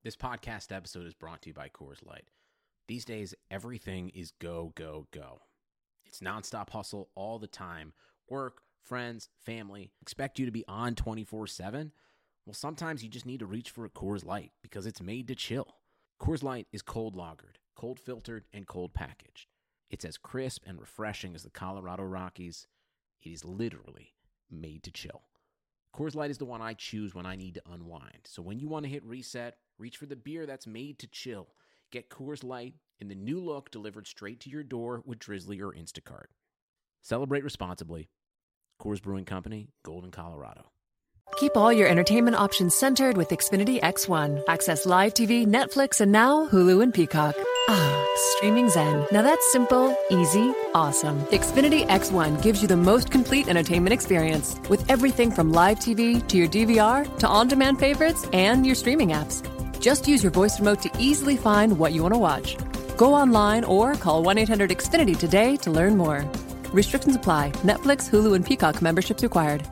This podcast episode is brought to you by Coors Light. These days, everything is go, go, go. It's nonstop hustle all the time. Work, friends, family, expect you to be on 24/7. Well, sometimes you just need to reach for a Coors Light because it's made to chill. Coors Light is cold lagered, cold filtered, and cold packaged. It's as crisp and refreshing as the Colorado Rockies. It is literally made to chill. Coors Light is the one I choose when I need to unwind. So when you want to hit reset, reach for the beer that's made to chill. Get Coors Light in the new look delivered straight to your door with Drizzly or Instacart. Celebrate responsibly. Coors Brewing Company, Golden, Colorado. Keep all your entertainment options centered with Xfinity X1. Access live TV, Netflix, and now Hulu and Peacock. Ah, streaming zen. Now that's simple, easy, awesome. Xfinity X1 gives you the most complete entertainment experience with everything from live TV to your DVR to on-demand favorites and your streaming apps. Just use your voice remote to easily find what you want to watch. Go online or call 1-800-XFINITY today to learn more. Restrictions apply. Netflix, Hulu, and Peacock memberships required.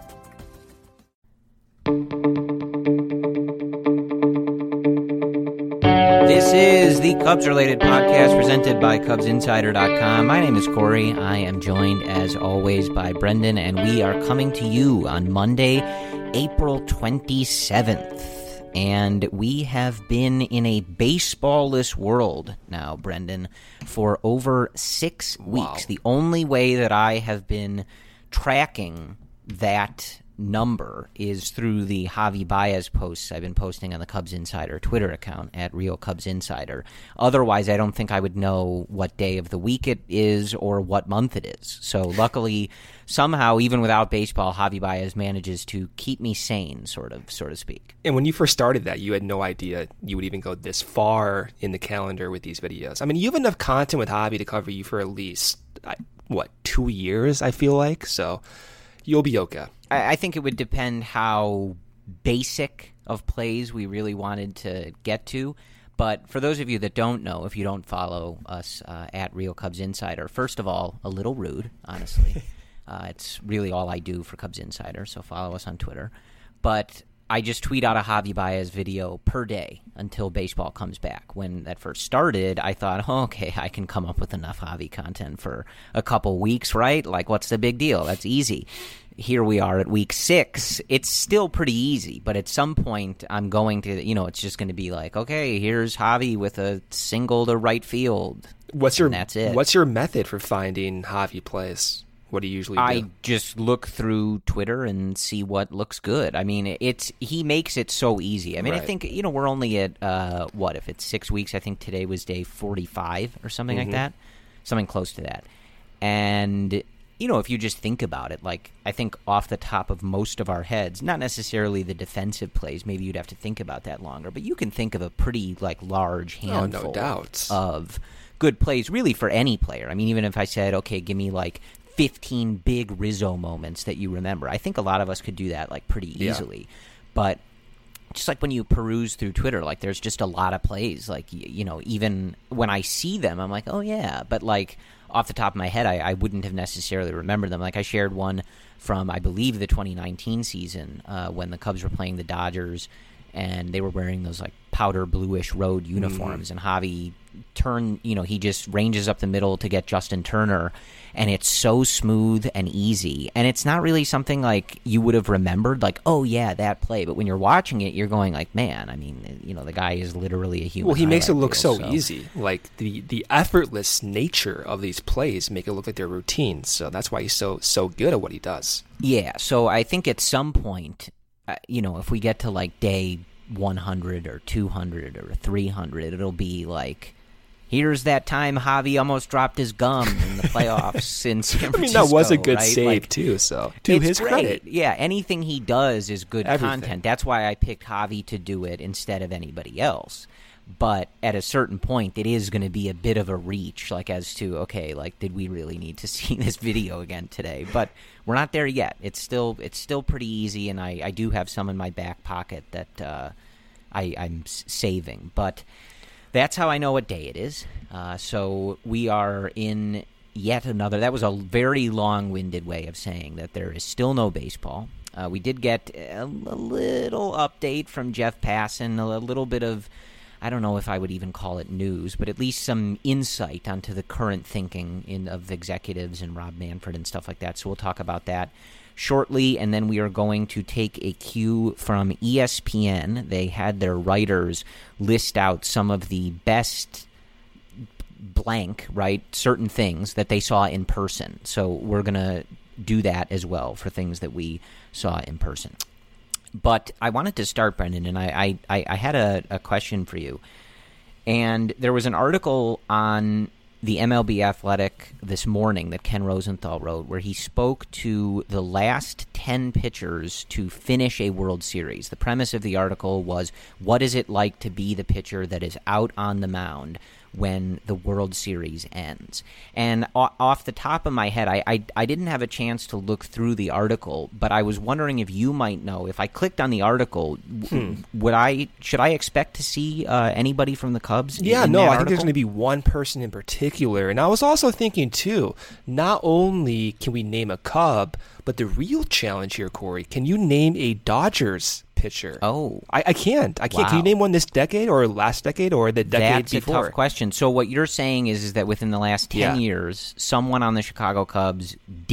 This is the Cubs-related podcast presented by CubsInsider.com. My name is Corey. I am joined, as always, by Brendan, and we are coming to you on Monday, April 27th. And we have been in a baseball-less world now, Brendan, for over 6 weeks. Wow. The only way that I have been tracking that number is through the Javi Baez posts I've been posting on the Cubs Insider Twitter account at Real Cubs Insider. Otherwise, I don't think I would know what day of the week it is or what month it is. So luckily, somehow, even without baseball, Javi Baez manages to keep me sane, so to speak. And when you first started that, you had no idea you would even go this far in the calendar with these videos. I mean, you have enough content with Javi to cover you for at least, 2 years, I feel like. So you'll be okay. I think it would depend how basic of plays we really wanted to get to. But for those of you that don't know, if you don't follow us at Real Cubs Insider, first of all, a little rude, honestly. It's really all I do for Cubs Insider, so follow us on Twitter. But I just tweet out a Javi Baez video per day until baseball comes back. When that first started, I thought, okay, I can come up with enough Javi content for a couple weeks, right? Like, what's the big deal? That's easy. Here we are at week 6. It's still pretty easy, but at some point I'm going to, it's just going to be like, okay, here's Javi with a single to right field. That's it. What's your method for finding Javi plays? What do you usually do? I just look through Twitter and see what looks good. I mean, he makes it so easy. I mean, Right. I think, we're only at, if it's 6 weeks, I think today was day 45 or something like that. Something close to that. And if you just think about it, like, I think off the top of most of our heads, not necessarily the defensive plays, maybe you'd have to think about that longer, but you can think of a pretty, large handful no doubt. of good plays, really, for any player. I mean, even if I said, okay, give me, 15 big Rizzo moments that you remember, I think a lot of us could do that, pretty easily. But just when you peruse through Twitter, there's just a lot of plays, even when I see them, I'm like, oh, yeah, but, off the top of my head, I wouldn't have necessarily remembered them. I shared one from, I believe, the 2019 season when the Cubs were playing the Dodgers, and they were wearing those, powder bluish road uniforms, and Javi he just ranges up the middle to get Justin Turner, and it's so smooth and easy, and it's not really something you would have remembered, oh, yeah, that play, but when you're watching it, you're going man, I mean, the guy is literally a human. Well, he makes it look reel, so easy. The effortless nature of these plays make it look like they're routines, so that's why he's so good at what he does. Yeah, so I think at some point, if we get to day 100 or 200 or 300, it'll be here's that time Javi almost dropped his gum in the playoffs in San Francisco. I mean, that was a good right? save, too, so to his great. credit. Yeah, anything he does is good Everything. content. That's why I picked Javi to do it instead of anybody else. But at a certain point, it is going to be a bit of a reach, as to, okay, did we really need to see this video again today? But we're not there yet. It's still pretty easy, and I do have some in my back pocket that I'm saving. But that's how I know what day it is. So we are in yet another. That was a very long-winded way of saying that there is still no baseball. We did get a little update from Jeff Passan, a little bit of, I don't know if I would even call it news, but at least some insight onto the current thinking of executives and Rob Manfred and stuff like that. So we'll talk about that shortly, and then we are going to take a cue from ESPN. They had their writers list out some of the best blank, right, certain things that they saw in person. So we're going to do that as well for things that we saw in person. But I wanted to start, Brendan, and I had a question for you. And there was an article on the MLB Athletic this morning that Ken Rosenthal wrote where he spoke to the last 10 pitchers to finish a World Series. The premise of the article was, what is it like to be the pitcher that is out on the mound when the World Series ends? And off the top of my head, I didn't have a chance to look through the article, but I was wondering if you might know. If I clicked on the article, should I expect to see anybody from the Cubs? Yeah, in no, that I think there's article? going to be one person in particular. And I was also thinking, too, not only can we name a Cub, but the real challenge here, Corey, can you name a Dodgers pitcher? Oh. I can't. Wow. Can you name one this decade or last decade or the decade That's before? a tough question. So what you're saying is that within the last 10 years, someone on the Chicago Cubs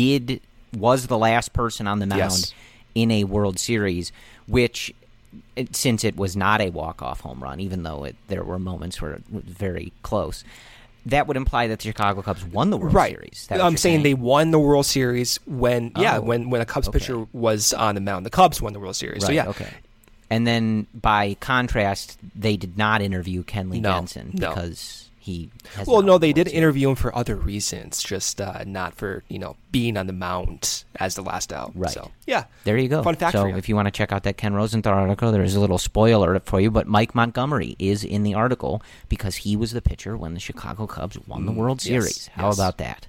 was the last person on the mound in a World Series, which, since it was not a walk-off home run, even though there were moments where it was very close, that would imply that the Chicago Cubs won the World Series. I'm saying they won the World Series when a Cubs pitcher was on the mound. The Cubs won the World Series. Right, so yeah. Okay. And then, by contrast, they did not interview Kenley Jansen because he has they did interview him for other reasons, just not for being on the mound as the last out. Right. So yeah, there you go. Fun fact so for you. If you want to check out that Ken Rosenthal article, there is a little spoiler for you. But Mike Montgomery is in the article because he was the pitcher when the Chicago Cubs won the World Series. How about that?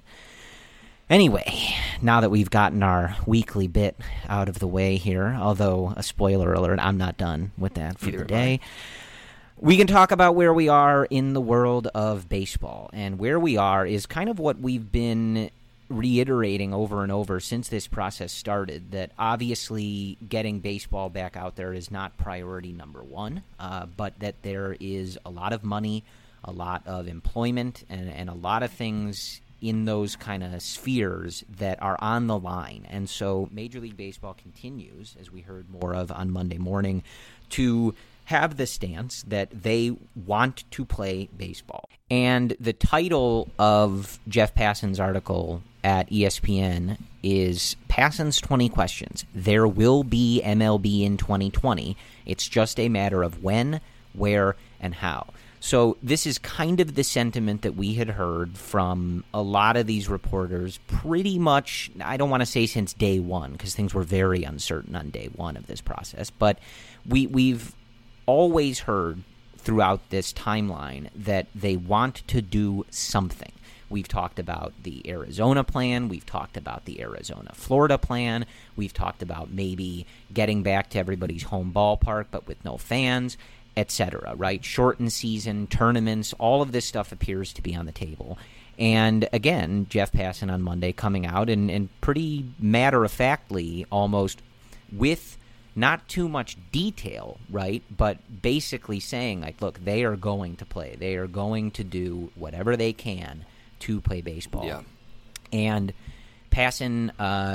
Anyway, now that we've gotten our weekly bit out of the way here, although a spoiler alert, I'm not done with that for the day. We can talk about where we are in the world of baseball. And where we are is kind of what we've been reiterating over and over since this process started, that obviously getting baseball back out there is not priority number one, but that there is a lot of money, a lot of employment, and a lot of things in those kind of spheres that are on the line. And so Major League Baseball continues, as we heard more of on Monday morning, to have the stance that they want to play baseball. And the title of Jeff Passan's article at ESPN is Passan's 20 Questions. There will be MLB in 2020. It's just a matter of when, where, and how. So this is kind of the sentiment that we had heard from a lot of these reporters pretty much, I don't want to say since day one, because things were very uncertain on day one of this process, but we've always heard throughout this timeline that they want to do something. We've talked about the Arizona plan. We've talked about the Arizona-Florida plan. We've talked about maybe getting back to everybody's home ballpark, but with no fans, etc., right? Shortened season, tournaments, all of this stuff appears to be on the table. And again, Jeff Passan on Monday coming out and pretty matter-of-factly, almost with not too much detail, right? But basically saying, like, look, they are going to play. They are going to do whatever they can to play baseball. Yeah. And Passan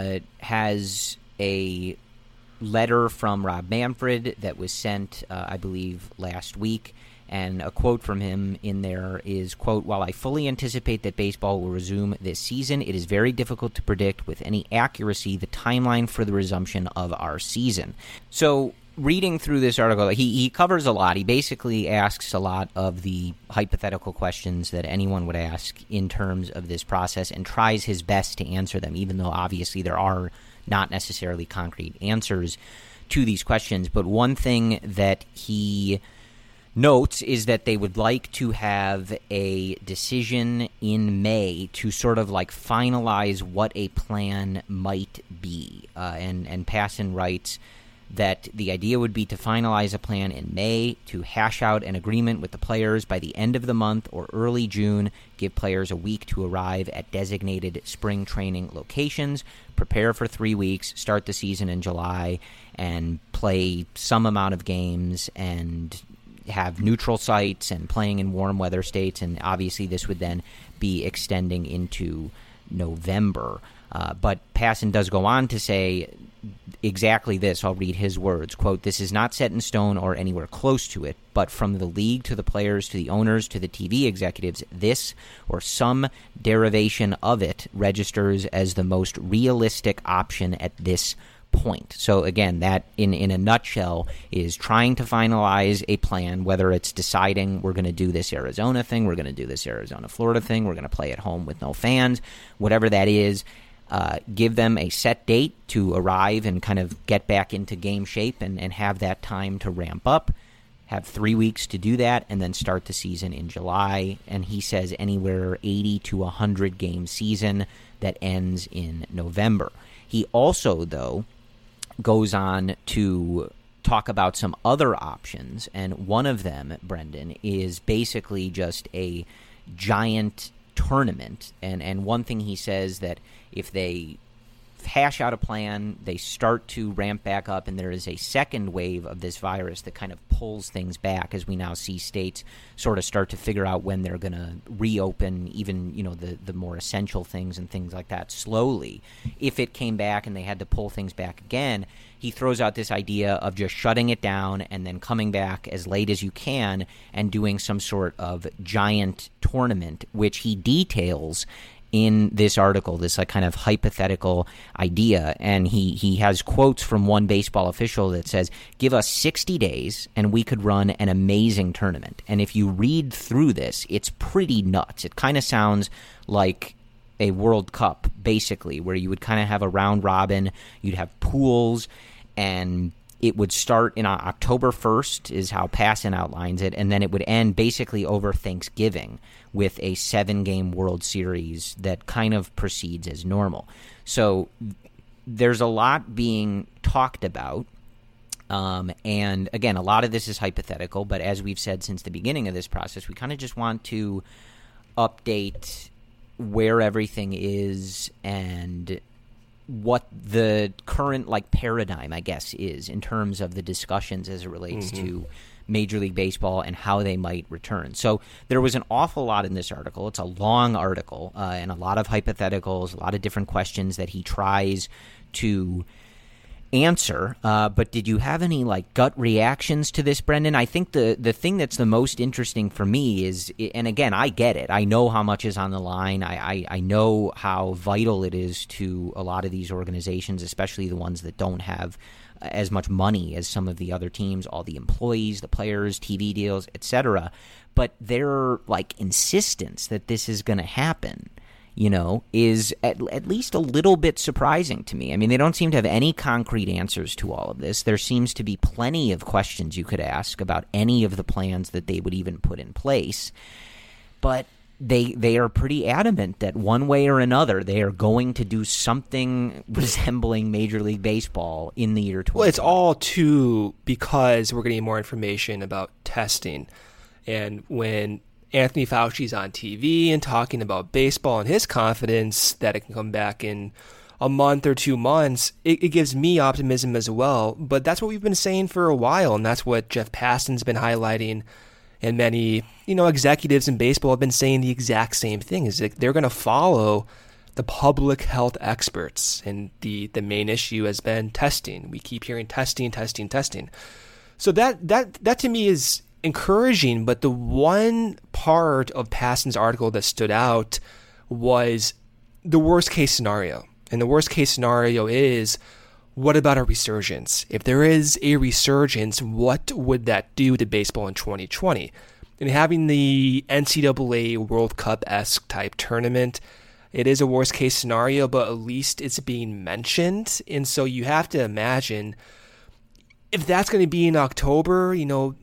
has a letter from Rob Manfred that was sent, I believe, last week. And a quote from him in there is, quote, "While I fully anticipate that baseball will resume this season, it is very difficult to predict with any accuracy the timeline for the resumption of our season." So reading through this article, he covers a lot. He basically asks a lot of the hypothetical questions that anyone would ask in terms of this process and tries his best to answer them, even though obviously there are not necessarily concrete answers to these questions. But one thing that he notes is that they would like to have a decision in May to sort of like finalize what a plan might be. And Passan writes that the idea would be to finalize a plan in May, to hash out an agreement with the players by the end of the month or early June, give players a week to arrive at designated spring training locations, prepare for 3 weeks, start the season in July, and play some amount of games and have neutral sites and playing in warm weather states. And obviously this would then be extending into November. But Passan does go on to say exactly this. I'll read his words. Quote, "This is not set in stone or anywhere close to it, but from the league to the players to the owners to the TV executives, this or some derivation of it registers as the most realistic option at this point." So again, that in a nutshell is trying to finalize a plan, whether it's deciding we're going to do this Arizona thing, we're going to do this Arizona-Florida thing, we're going to play at home with no fans, whatever that is. Give them a set date to arrive and kind of get back into game shape and have that time to ramp up, have 3 weeks to do that, and then start the season in July. And he says anywhere 80 to 100 game season that ends in November. He also, though, goes on to talk about some other options, and one of them, Brendan, is basically just a giant tournament. And one thing he says that if they hash out a plan, they start to ramp back up, and there is a second wave of this virus that kind of pulls things back as we now see states sort of start to figure out when they're going to reopen even, the more essential things and things like that slowly. If it came back and they had to pull things back again, he throws out this idea of just shutting it down and then coming back as late as you can and doing some sort of giant tournament, which he details in this article, this kind of hypothetical idea. And he has quotes from one baseball official that says, "Give us 60 days and we could run an amazing tournament." And if you read through this, it's pretty nuts. It kind of sounds like a World Cup, basically, where you would kind of have a round robin, you'd have pools, and it would start in October 1st is how Passan outlines it, and then it would end basically over Thanksgiving with a 7-game World Series that kind of proceeds as normal. So there's a lot being talked about, and again, a lot of this is hypothetical, but as we've said since the beginning of this process, we kind of just want to update where everything is and what the current paradigm, I guess, is in terms of the discussions as it relates to Major League Baseball and how they might return. So there was an awful lot in this article. It's a long article and a lot of hypotheticals, a lot of different questions that he tries to answer. But did you have any gut reactions to this, Brendan? I think the thing that's the most interesting for me is, and again, I get it. I know how much is on the line. I know how vital it is to a lot of these organizations, especially the ones that don't have as much money as some of the other teams, all the employees, the players, TV deals, etc. But their insistence that this is going to happen, is at least a little bit surprising to me. I mean, they don't seem to have any concrete answers to all of this. There seems to be plenty of questions you could ask about any of the plans that they would even put in place. But they are pretty adamant that one way or another they are going to do something resembling Major League Baseball in the year 2020. Well, it's all too because we're getting more information about testing. And when Anthony Fauci's on TV and talking about baseball and his confidence that it can come back in a month or 2 months, it gives me optimism as well. But that's what we've been saying for a while, and that's what Jeff Passan's been highlighting, and many executives in baseball have been saying the exact same thing, is that they're going to follow the public health experts, and the main issue has been testing. We keep hearing testing. So that to me is encouraging, but the one part of Passan's article that stood out was the worst case scenario. And the worst case scenario is, what about a resurgence? If there is a resurgence, what would that do to baseball in 2020? And having the NCAA World Cup-esque type tournament, it is a worst case scenario, but at least it's being mentioned. And so you have to imagine if that's going to be in October,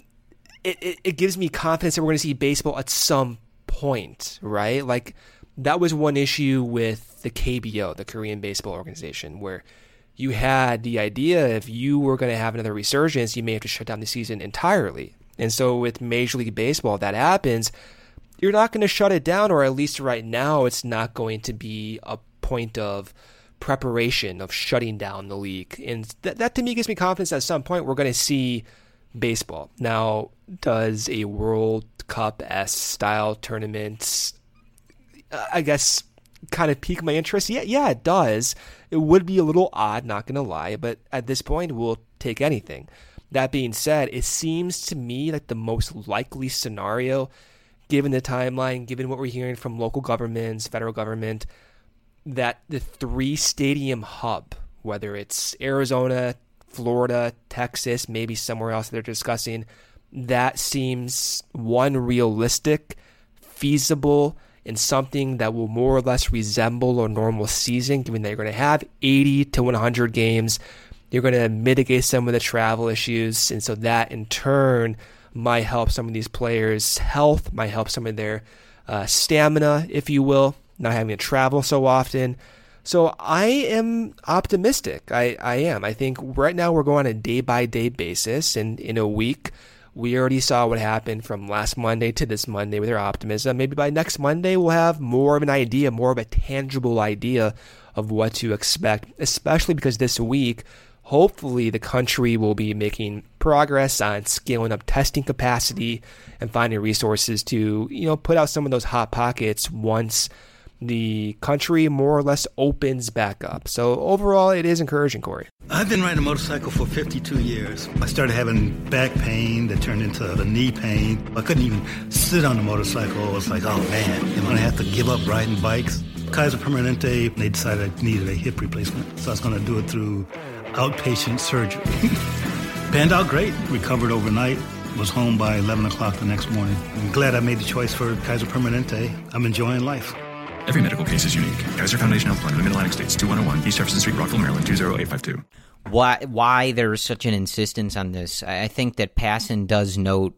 it gives me confidence that we're going to see baseball at some point, right? That was one issue with the KBO, the Korean Baseball Organization, where you had the idea if you were going to have another resurgence, you may have to shut down the season entirely. And so with Major League Baseball, if that happens, you're not going to shut it down, or at least right now, it's not going to be a point of preparation of shutting down the league. And that to me gives me confidence that at some point we're going to see baseball. Now, does a World Cup-esque style tournament, I guess, kind of pique my interest? Yeah, it does. It would be a little odd, not going to lie, but at this point, we'll take anything. That being said, it seems to me like the most likely scenario, given the timeline, given what we're hearing from local governments, federal government, that the 3-stadium hub, whether it's Arizona, Florida, Texas, maybe somewhere else they're discussing, that seems one, realistic, feasible, and something that will more or less resemble a normal season, given that you're going to have 80 to 100 games. You're going to mitigate some of the travel issues, and so that in turn might help some of these players' health, might help some of their stamina, if you will, not having to travel so often. So I am optimistic. I am. I think right now we're going on a day-by-day basis, and in a week, we already saw what happened from last Monday to this Monday with our optimism. Maybe by next Monday, we'll have more of an idea, more of a tangible idea of what to expect, especially because this week, hopefully the country will be making progress on scaling up testing capacity and finding resources to, put out some of those hot pockets once the country more or less opens back up. So overall, it is encouraging, Corey. I've been riding a motorcycle for 52 years. I started having back pain that turned into the knee pain. I couldn't even sit on the motorcycle. I was like, oh man, am I going to have to give up riding bikes? Kaiser Permanente, they decided I needed a hip replacement. So I was going to do it through outpatient surgery. Panned out great. Recovered overnight. Was home by 11 o'clock the next morning. I'm glad I made the choice for Kaiser Permanente. I'm enjoying life. Every medical case is unique. Kaiser Foundation Health Plan of the Mid-Atlantic States, 2101 East Jefferson Street, Rockville, Maryland, 20852. Why there's such an insistence on this? I think that Passan does note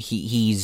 he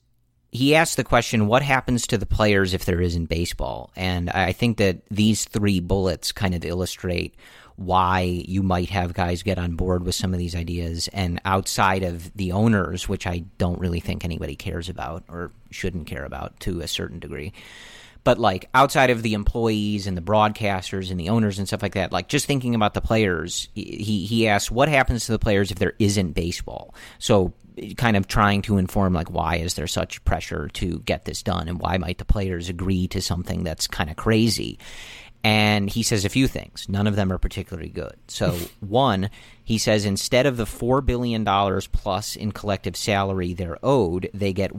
asked the question, what happens to the players if there isn't baseball? And I think that these three bullets kind of illustrate why you might have guys get on board with some of these ideas. And outside of the owners, which I don't really think anybody cares about or shouldn't care about to a certain degree, but like outside of the employees and the broadcasters and the owners and stuff like that, like just thinking about the players, he asked what happens to the players if there isn't baseball. So kind of trying to inform like why is there such pressure to get this done and why might the players agree to something that's kind of crazy. And he says a few things. None of them are particularly good. So one, he says instead of the $4 billion plus in collective salary they're owed, they get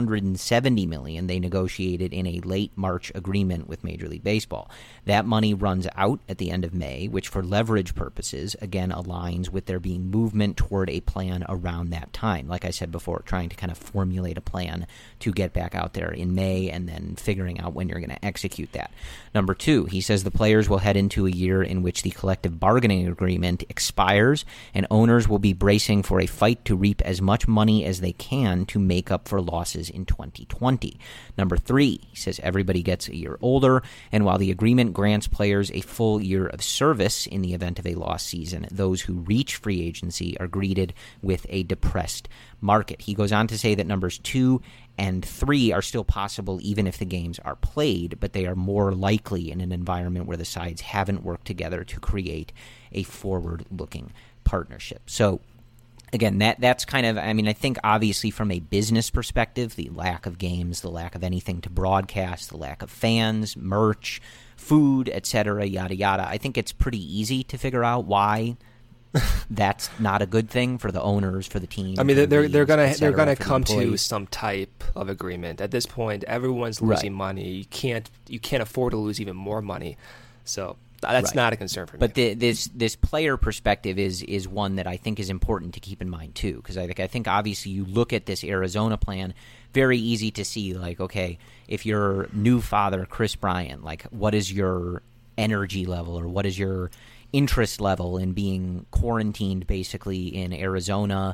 $170 million they negotiated in a late March agreement with Major League Baseball. That money runs out at the end of May, which for leverage purposes, again, aligns with there being movement toward a plan around that time. Like I said before, trying to kind of formulate a plan to get back out there in May and then figuring out when you're going to execute that. Number two, he says the players will head into a year in which the collective bargaining agreement expires and owners will be bracing for a fight to reap as much money as they can to make up for losses in 2020. Number three, he says everybody gets a year older, and while the agreement grants players a full year of service in the event of a lost season, those who reach free agency are greeted with a depressed market. He goes on to say that numbers 2 and 3 are still possible even if the games are played, but they are more likely in an environment where the sides haven't worked together to create a forward-looking partnership. So again, that's kind of, I mean, I think obviously from a business perspective, the lack of games, the lack of anything to broadcast, the lack of fans, merch, food, etc., yada yada, I think it's pretty easy to figure out why that's not a good thing for the owners, for the team. I mean, they're gonna come to some type of agreement. At this point, everyone's losing money. You can't afford to lose even more money. So that's not a concern for me. But this player perspective is one that I think is important to keep in mind too, because I think obviously you look at this Arizona plan, very easy to see like, okay, if you're new father Chris Bryant, like what is your energy level or what is your interest level in being quarantined basically in Arizona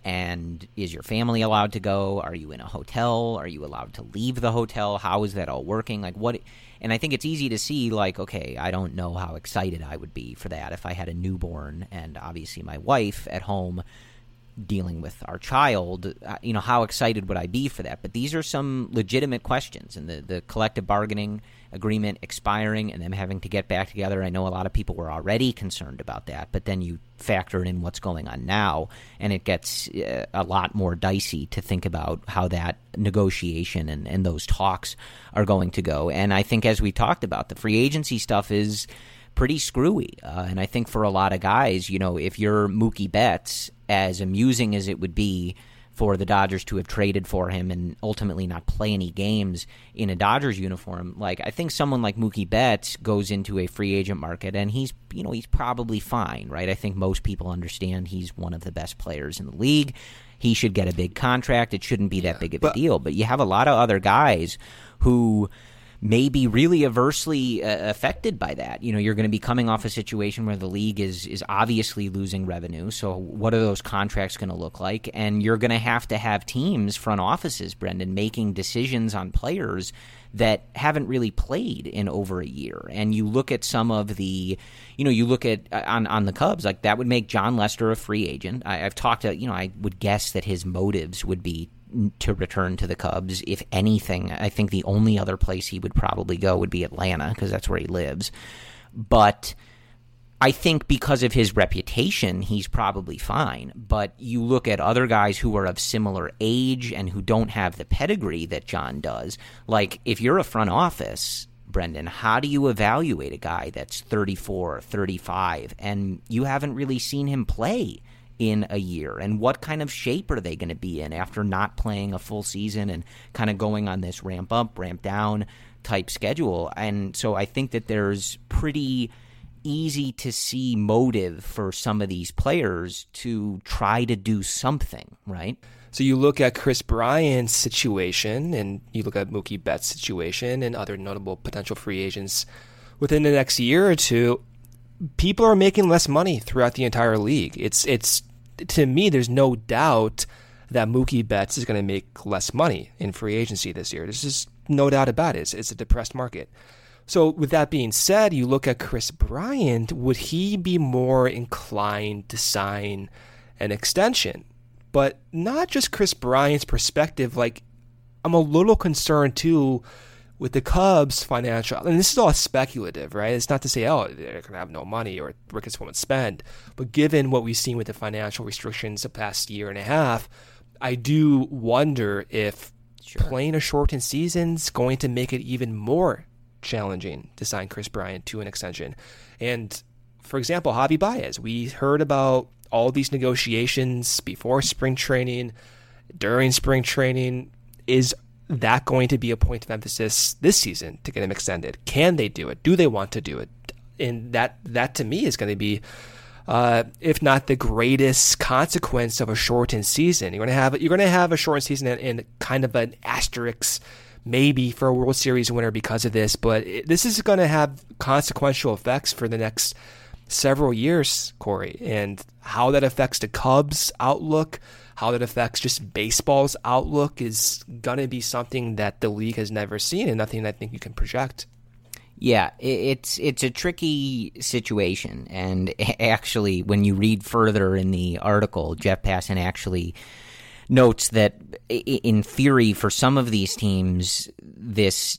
And is your family allowed to go? Are you in a hotel? Are you allowed to leave the hotel? How is that all working? Like what? And I think it's easy to see, like, okay, I don't know how excited I would be for that if I had a newborn and obviously my wife at home dealing with our child. How excited would I be for that? But these are some legitimate questions, and the collective bargaining agreement expiring and them having to get back together. I know a lot of people were already concerned about that, but then you factor in what's going on now, and it gets a lot more dicey to think about how that negotiation and those talks are going to go. And I think, as we talked about, the free agency stuff is pretty screwy. And I think for a lot of guys, if you're Mookie Betts, as amusing as it would be for the Dodgers to have traded for him and ultimately not play any games in a Dodgers uniform, like, I think someone like Mookie Betts goes into a free agent market and he's probably fine, right? I think most people understand he's one of the best players in the league. He should get a big contract. It shouldn't be that big of a deal. But you have a lot of other guys who may be really adversely affected by that. You're going to be coming off a situation where the league is obviously losing revenue. So what are those contracts going to look like? And you're going to have teams, front offices, Brendan, making decisions on players that haven't really played in over a year. And you look at some of the, you look at on the Cubs, like that would make John Lester a free agent. I've talked to, I would guess that his motives would be to return to the Cubs. If anything, I think the only other place he would probably go would be Atlanta, because that's where he lives. But I think because of his reputation, he's probably fine. But you look at other guys who are of similar age and who don't have the pedigree that John does. Like, if you're a front office, Brendan, how do you evaluate a guy that's 34, 35, and you haven't really seen him play in a year? And what kind of shape are they going to be in after not playing a full season and kind of going on this ramp up, ramp down type schedule? And so I think that there's pretty easy to see motive for some of these players to try to do something, right? So you look at Kris Bryant's situation, and you look at Mookie Betts' situation and other notable potential free agents within the next year or two. People are making less money throughout the entire league. It's to me, there's no doubt that Mookie Betts is going to make less money in free agency this year. There's just no doubt about it. It's a depressed market. So with that being said, you look at Kris Bryant, would he be more inclined to sign an extension? But not just Kris Bryant's perspective. Like, I'm a little concerned too with the Cubs' financial, and this is all speculative, right? It's not to say, oh, they're going to have no money or Ricketts won't spend. But given what we've seen with the financial restrictions the past year and a half, I do wonder if playing a shortened season's going to make it even more challenging to sign Kris Bryant to an extension. And, for example, Javi Baez, we heard about all these negotiations before spring training, during spring training. Is that going to be a point of emphasis this season to get him extended? Can they do it? Do they want to do it? And that to me is going to be, if not the greatest consequence of a shortened season. You're going to have a shortened season and kind of an asterisk maybe for a World Series winner because of this, but this is going to have consequential effects for the next several years, Corey, and how that affects the Cubs' outlook, how that affects just baseball's outlook is going to be something that the league has never seen and nothing I think you can project. Yeah, it's a tricky situation. And actually, when you read further in the article, Jeff Passan actually notes that in theory, for some of these teams, this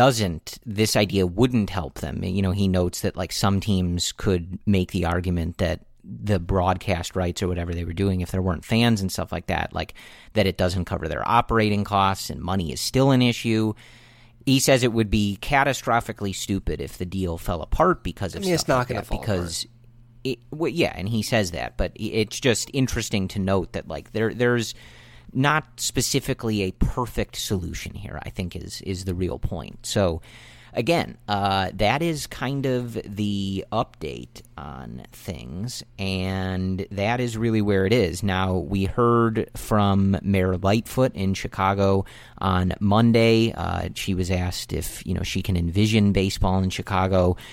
idea wouldn't help them. He notes that like some teams could make the argument that the broadcast rights or whatever they were doing, if there weren't fans and stuff like that, like that it doesn't cover their operating costs and money is still an issue. He says it would be catastrophically stupid if the deal fell apart because of stuff it's not like going that. to fall because apart. And he says that, but it's just interesting to note that like there's not specifically a perfect solution here, I think is the real point. So again, that is kind of the update on things, and that is really where it is. Now, we heard from Mayor Lightfoot in Chicago on Monday. She was asked if she can envision baseball in Chicago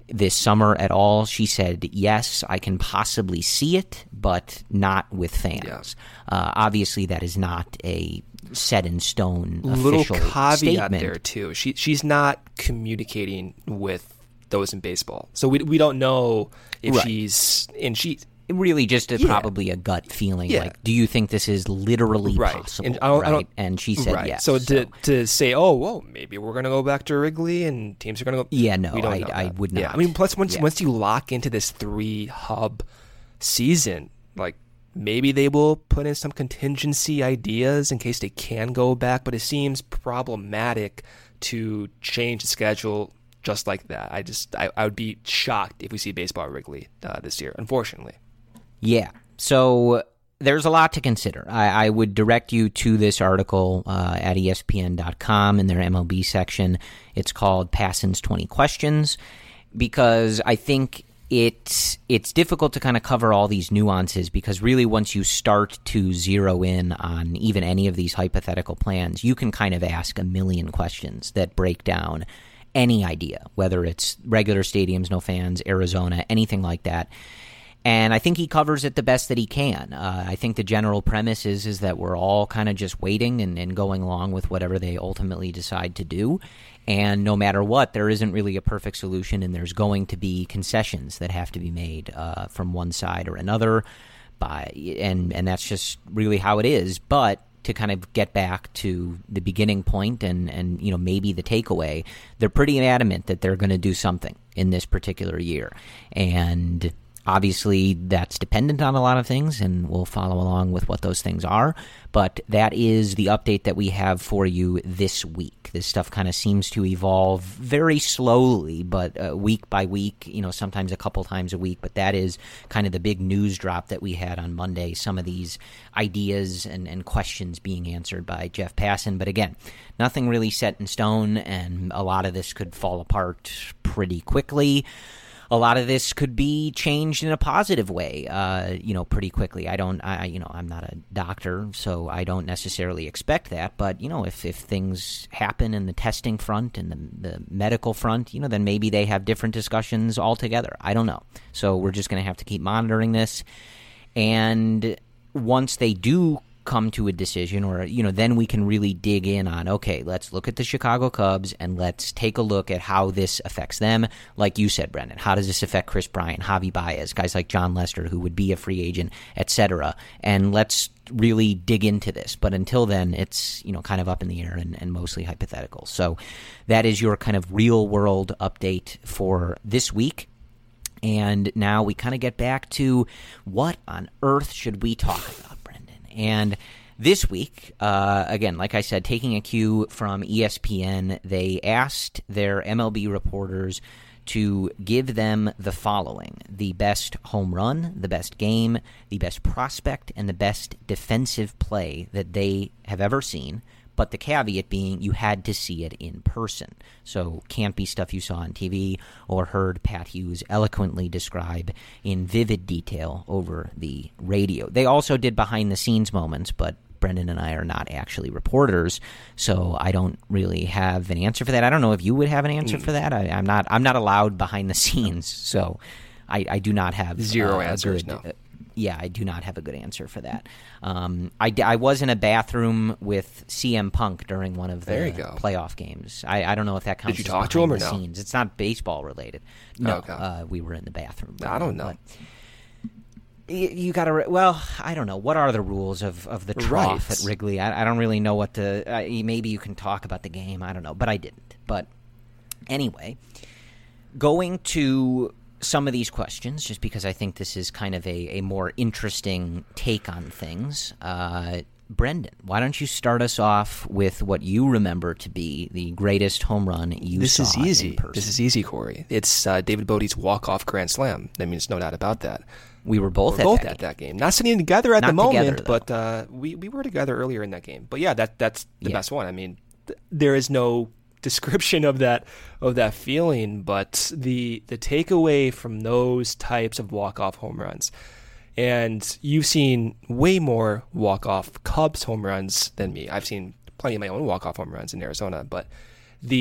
this summer at all. She said, yes, I can possibly see it, but not with fans. Obviously, that is not a set in stone little official caveat statement. there too. She's not communicating with those in baseball, so we don't know if she's really just probably a gut feeling. Like, do you think this is literally possible? And she said yes. So to say, maybe we're going to go back to Wrigley and teams are going to go. Yeah, no, we don't I would not. Yeah, I mean, plus once you lock into this 3-hub season, like maybe they will put in some contingency ideas in case they can go back. But it seems problematic to change the schedule just like that. I would be shocked if we see baseball at Wrigley this year, unfortunately. Yeah. So there's a lot to consider. I would direct you to this article at ESPN.com in their MLB section. It's called Passan's 20 Questions, because I think it's difficult to kind of cover all these nuances, because really once you start to zero in on even any of these hypothetical plans, you can kind of ask a million questions that break down any idea, whether it's regular stadiums, no fans, Arizona, anything like that. And I think he covers it the best that he can. I think the general premise is that we're all kind of just waiting and going along with whatever they ultimately decide to do. And no matter what, there isn't really a perfect solution, and there's going to be concessions that have to be made from one side or another. And that's just really how it is. But to kind of get back to the beginning point and maybe the takeaway, they're pretty adamant that they're going to do something in this particular year. And obviously, that's dependent on a lot of things, and we'll follow along with what those things are. But that is the update that we have for you this week. This stuff kind of seems to evolve very slowly, but week by week, sometimes a couple times a week. But that is kind of the big news drop that we had on Monday, some of these ideas and questions being answered by Jeff Passan. But again, nothing really set in stone, and a lot of this could fall apart pretty quickly. A lot of this could be changed in a positive way, pretty quickly. I'm not a doctor, so I don't necessarily expect that. But, if things happen in the testing front and the medical front, then maybe they have different discussions altogether. I don't know. So we're just going to have to keep monitoring this. And once they do come to a decision, or then we can really dig in on, okay, let's look at the Chicago Cubs and let's take a look at how this affects them. Like you said, Brendan, how does this affect Chris Bryant, Javi Baez, guys like John Lester, who would be a free agent, etc. And let's really dig into this. But until then, it's kind of up in the air and mostly hypothetical. So that is your kind of real world update for this week. And now we kind of get back to what on earth should we talk about? And this week, again, like I said, taking a cue from ESPN, they asked their MLB reporters to give them the following: the best home run, the best game, the best prospect, and the best defensive play that they have ever seen. But the caveat being you had to see it in person. So can't be stuff you saw on TV or heard Pat Hughes eloquently describe in vivid detail over the radio. They also did behind-the-scenes moments, but Brendan and I are not actually reporters, so I don't really have an answer for that. I don't know if you would have an answer for that. I'm not allowed behind the scenes, so I do not have zero answers. No. I do not have a good answer for that. I was in a bathroom with CM Punk during one of the playoff games. I don't know if that counts. Did you talk to him or no? Scenes. It's not baseball related. No, we were in the bathroom. I don't know. You got to. Well, I don't know. What are the rules of the trough at Wrigley? I don't really know what the. Maybe you can talk about the game. I don't know, but I didn't. But anyway, going to some of these questions, just because I think this is kind of a more interesting take on things. Brendan, why don't you start us off with what you remember to be the greatest home run you saw This is easy. In person? This is easy, Corey. It's David Bodie's walk-off grand slam. I mean, there's no doubt about that. We were both at that game. Not sitting together at Not the moment, together, but we were together earlier in that game. But yeah, that's the best one. I mean, there is no description of that feeling, but the takeaway from those types of walk-off home runs, and you've seen way more walk-off Cubs home runs than me. I've seen plenty of my own walk-off home runs in Arizona, but the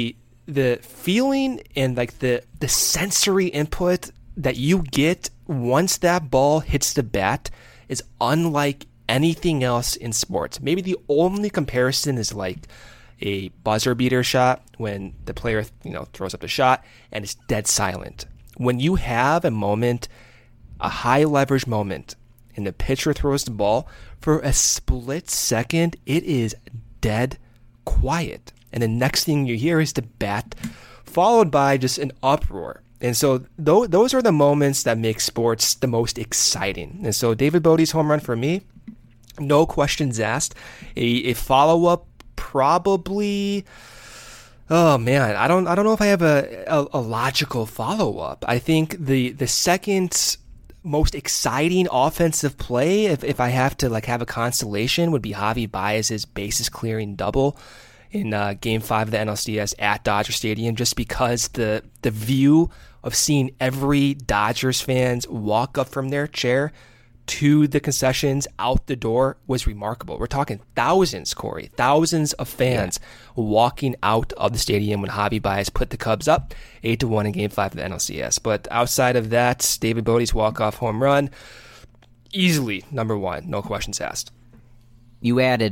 the feeling and like the sensory input that you get once that ball hits the bat is unlike anything else in sports. Maybe the only comparison is like a buzzer beater shot when the player, throws up the shot and it's dead silent. When you have a moment, a high leverage moment, and the pitcher throws the ball, for a split second, it is dead quiet. And the next thing you hear is the bat, followed by just an uproar. And so those are the moments that make sports the most exciting. And so David Bote's home run for me, no questions asked. A follow-up probably, oh man, I don't know if I have a logical follow-up. I think the second most exciting offensive play, if I have to have a constellation, would be Javi Baez's bases clearing double in Game 5 of the NLCS at Dodger Stadium, just because the view of seeing every Dodgers fans walk up from their chair to the concessions out the door was remarkable. We're talking thousands, Corey, thousands of fans walking out of the stadium when Javi Baez put the Cubs up 8-1 in Game 5 of the NLCS. But outside of that, David Bote's walk-off home run, easily number one, no questions asked. You added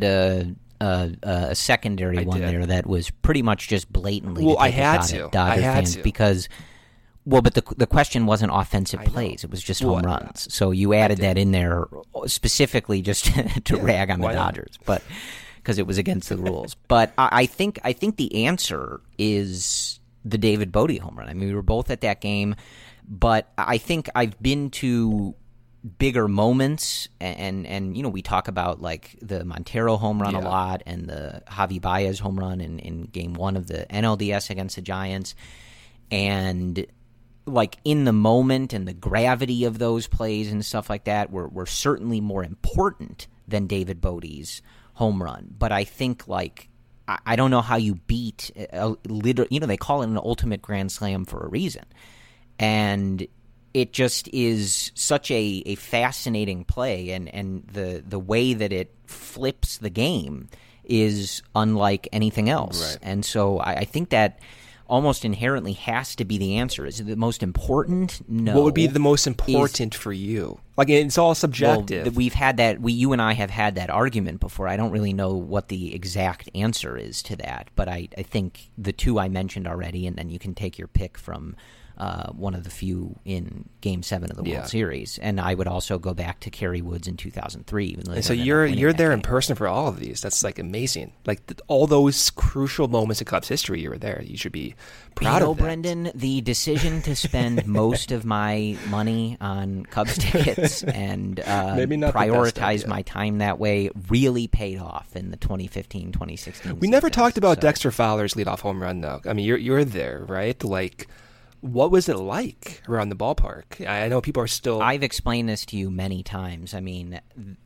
a secondary one there that was pretty much just blatantly. Well, I had to. Because. Well, but the question wasn't offensive plays; it was just home runs. So you added that in there specifically just to rag on the Dodgers, but because it was against the rules. But I think the answer is the David Bote home run. I mean, we were both at that game, but I think I've been to bigger moments, and we talk about like the Montero home run a lot, and the Javi Baez home run in Game 1 of the NLDS against the Giants, and like in the moment and the gravity of those plays and stuff like that were certainly more important than David Bote's home run. But I think I don't know how you beat they call it an ultimate grand slam for a reason. And it just is such a fascinating play, and the way that it flips the game is unlike anything else. Right. And so I think that almost inherently has to be the answer. Is it the most important? No. What would be the most important for you? Like, it's all subjective. Well, we've had that. You and I have had that argument before. I don't really know what the exact answer is to that, but I think the two I mentioned already, and then you can take your pick from one of the few in Game 7 of the World Series. And I would also go back to Kerry Woods in 2003. Even though and so you're there in person for all of these. That's amazing. All those crucial moments of Cubs history, you were there. You should be proud of that. Brendan, the decision to spend most of my money on Cubs tickets and prioritize my time that way really paid off in the 2015-2016 We never talked about Dexter Fowler's leadoff home run, though. I mean, you're there, right? What was it like around the ballpark? I know people are still... I've explained this to you many times. I mean,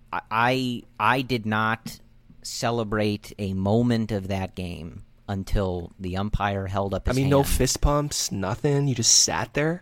I did not celebrate a moment of that game until the umpire held up his hand. No fist pumps, nothing? You just sat there?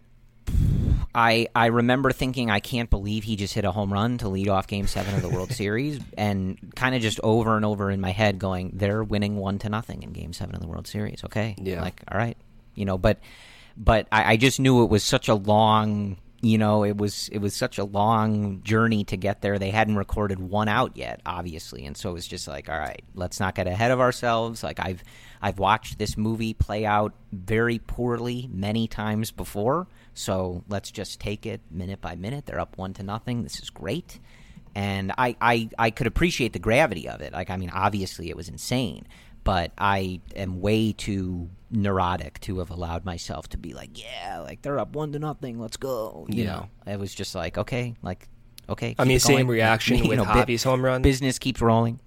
I remember thinking, I can't believe he just hit a home run to lead off Game 7 of the World Series, and kind of just over and over in my head going, they're winning 1-0 in Game 7 of the World Series. Okay. Yeah. All right. But I just knew it was such a long, it was such a long journey to get there. They hadn't recorded one out yet, obviously, and so it was just all right, let's not get ahead of ourselves. I've watched this movie play out very poorly many times before, so let's just take it minute by minute. They're up 1-0. This is great, and I could appreciate the gravity of it. Obviously it was insane. But I am way too neurotic to have allowed myself to be they're up 1-0, let's go. You know, it was just okay. Same reaction with Javi's home run. Business keeps rolling.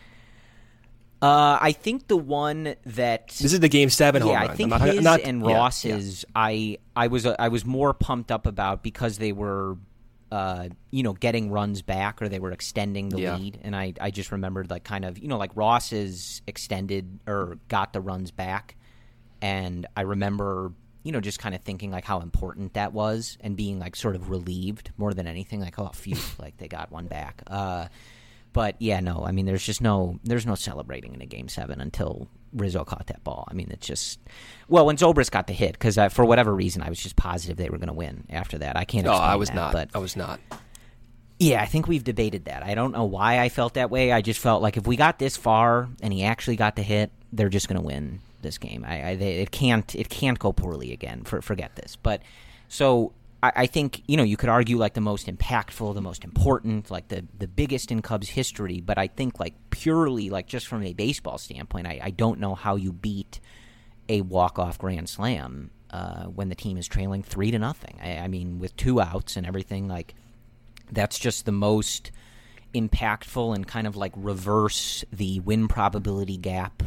I think the one that this is the Game 7 home run. I think his and Ross's. Yeah. I was more pumped up about because they were. Getting runs back, or they were extending the lead, and I just remembered Ross's extended or got the runs back, and I remember just kind of thinking how important that was, and being sort of relieved more than anything, oh phew, they got one back. But yeah, no, I mean, there's no celebrating in a Game 7 until Rizzo caught that ball. I mean, it's just, well, when Zobrist got the hit, because for whatever reason, I was just positive they were going to win after that. I can't explain I was that, not. But I was not. Yeah, I think we've debated that. I don't know why I felt that way. I just felt like if we got this far and he actually got the hit, they're just going to win this game. It can't go poorly again. Forget this. But so I think, you could argue like the most impactful, the most important, like the biggest in Cubs history. But I think like purely like just from a baseball standpoint, I don't know how you beat a walk-off grand slam when the team is trailing 3-0. I mean, with 2 outs and everything, like that's just the most impactful and kind of like reverse the win probability gap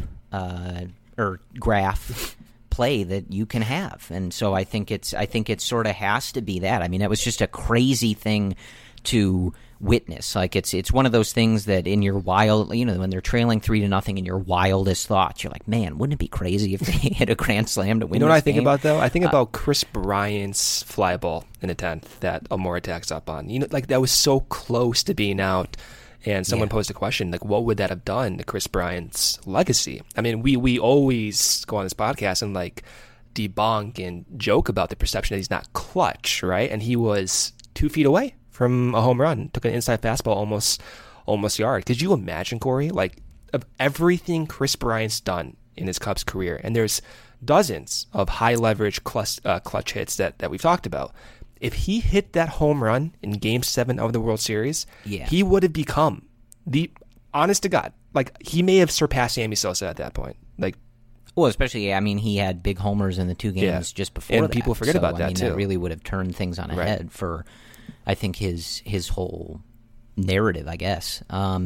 or graph play that you can have. And so I think it sort of has to be that. I mean, that was just a crazy thing to witness. Like it's one of those things that in your wild, when they're trailing 3-0 in your wildest thoughts, you're like, man, wouldn't it be crazy if they hit a grand slam to win? You know this what I think game? about though? I think about Chris Bryant's fly ball in the 10th that Almora tacks up on. Like that was so close to being out. And someone posed a question, like, what would that have done to Chris Bryant's legacy? I mean, we always go on this podcast and, like, debunk and joke about the perception that he's not clutch, right? And he was 2 feet away from a home run, took an inside fastball almost yard. Could you imagine, Corey, like, of everything Chris Bryant's done in his Cubs career, and there's dozens of high-leverage clutch hits that we've talked about, if he hit that home run in Game 7 of the World Series, he would have become honest to God, like he may have surpassed Sammy Sosa at that point. Like, well, especially, I mean, he had big homers in the 2 games just before and that. people forget about that too. That really would have turned things on a head for, I think, his whole narrative, I guess.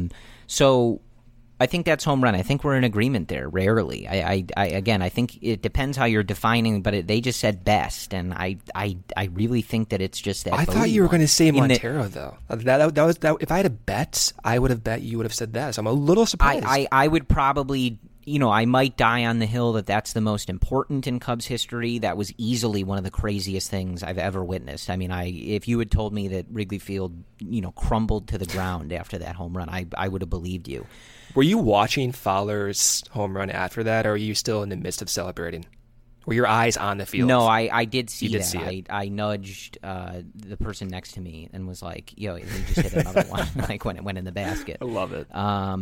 So I think that's home run. I think we're in agreement there. Rarely, I think it depends how you're defining. But they just said best, and I really think that it's just that. I thought you were going to say Montero though. That was if I had a bet, I would have bet you would have said that. So I'm a little surprised. I would probably, I might die on the hill that that's the most important in Cubs history. That was easily one of the craziest things I've ever witnessed. I mean, if you had told me that Wrigley Field, crumbled to the ground after that home run, I would have believed you. Were you watching Fowler's home run after that, or are you still in the midst of celebrating? Were your eyes on the field? No, I did see that. See it. I nudged the person next to me and was like, yo, he just hit another one, like when it went in the basket. I love it.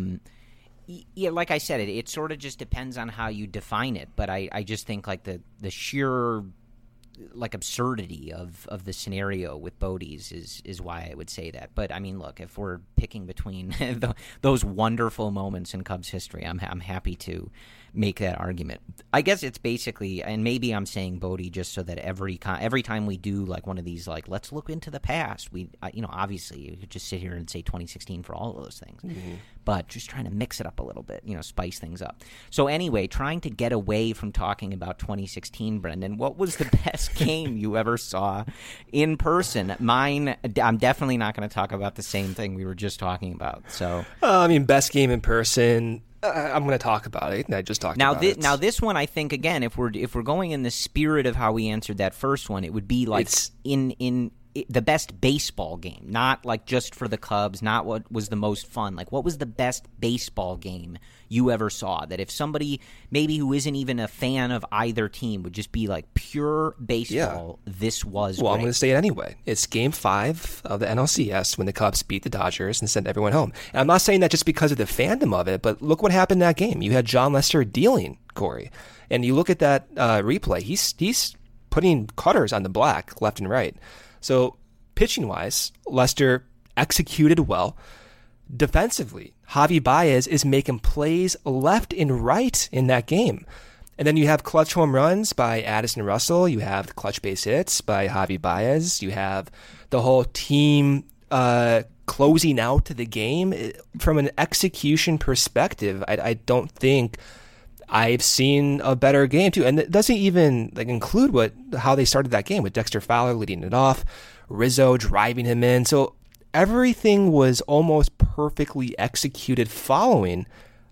Yeah, like I said, it sort of just depends on how you define it, but I just think like the sheer like absurdity of the scenario with Bode's is why I would say that. But I mean, look, if we're picking between those wonderful moments in Cubs history, I'm happy to make that argument. I guess it's basically, and maybe I'm saying Bode just so that every time we do like one of these, like, let's look into the past, we obviously you could just sit here and say 2016 for all of those things, but just trying to mix it up a little bit, spice things up. So anyway, trying to get away from talking about 2016, Brendan, what was the best game you ever saw in person? Mine, I'm definitely not going to talk about the same thing we were just talking about. So best game in person. I'm going to talk about it. I just talked about it. Now, this one, I think, again, if we're going in the spirit of how we answered that first one, it would be like in the best baseball game, not like just for the Cubs, not what was the most fun. Like, what was the best baseball game you ever saw? That if somebody maybe who isn't even a fan of either team would just be like pure baseball, this was Well, great. I'm going to say it anyway. It's Game 5 of the NLCS when the Cubs beat the Dodgers and sent everyone home. And I'm not saying that just because of the fandom of it, but look what happened in that game. You had John Lester dealing, Corey. And you look at that replay, he's putting cutters on the black left and right. So pitching-wise, Lester executed well. Defensively, Javi Baez is making plays left and right in that game. And then you have clutch home runs by Addison Russell. You have clutch base hits by Javi Baez. You have the whole team closing out to the game. From an execution perspective, I don't think I've seen a better game too. And it doesn't even include how they started that game with Dexter Fowler leading it off, Rizzo driving him in. So everything was almost perfectly executed following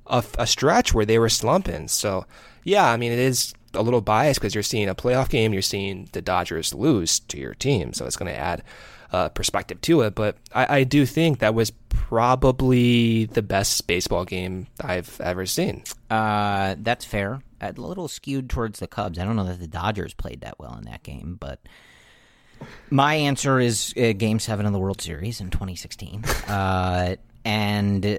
a stretch where they were slumping. So yeah, I mean, it is a little biased because you're seeing a playoff game, you're seeing the Dodgers lose to your team. So it's going to add perspective to it. But I do think that was probably the best baseball game I've ever seen. That's fair. A little skewed towards the Cubs. I don't know that the Dodgers played that well in that game, but my answer is Game 7 of the World Series in 2016. And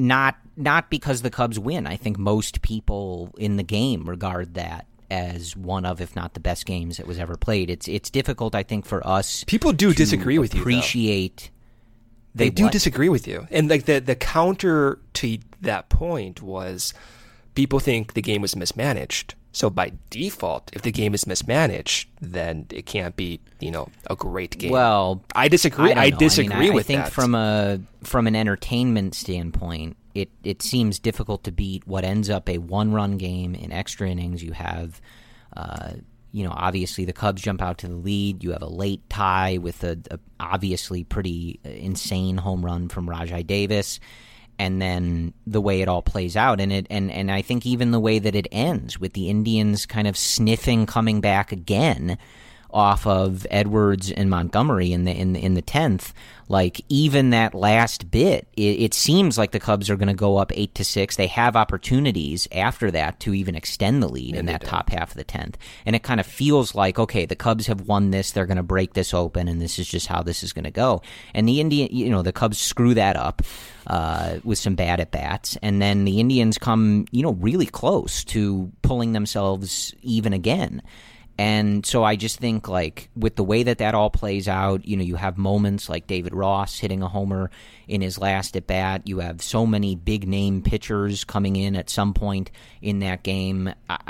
not because the Cubs win. I think most people in the game regard that as one of, if not the best games that was ever played. It's difficult, I think, for us. People do disagree with you. Appreciate. They do disagree with you, and like the counter to that point was, people think the game was mismanaged. So by default, if the game is mismanaged, then it can't be, a great game. Well, I disagree. I disagree with that. I think from an entertainment standpoint, it seems difficult to beat what ends up a one-run game in extra innings. You have, obviously the Cubs jump out to the lead. You have a late tie with a obviously pretty insane home run from Rajai Davis. And then the way it all plays out, and I think even the way that it ends with the Indians kind of sniffing coming back again off of Edwards and Montgomery in the 10th, like even that last bit, it seems like the Cubs are going to go up 8-6. They have opportunities after that to even extend the lead in that top half of the 10th, and it kind of feels like, okay, the Cubs have won this. They're going to break this open, and this is just how this is going to go. And the Cubs screw that up with some bad at bats, and then the Indians come, really close to pulling themselves even again. And so I just think, like, with the way that all plays out, you have moments like David Ross hitting a homer in his last at bat. You have so many big name pitchers coming in at some point in that game.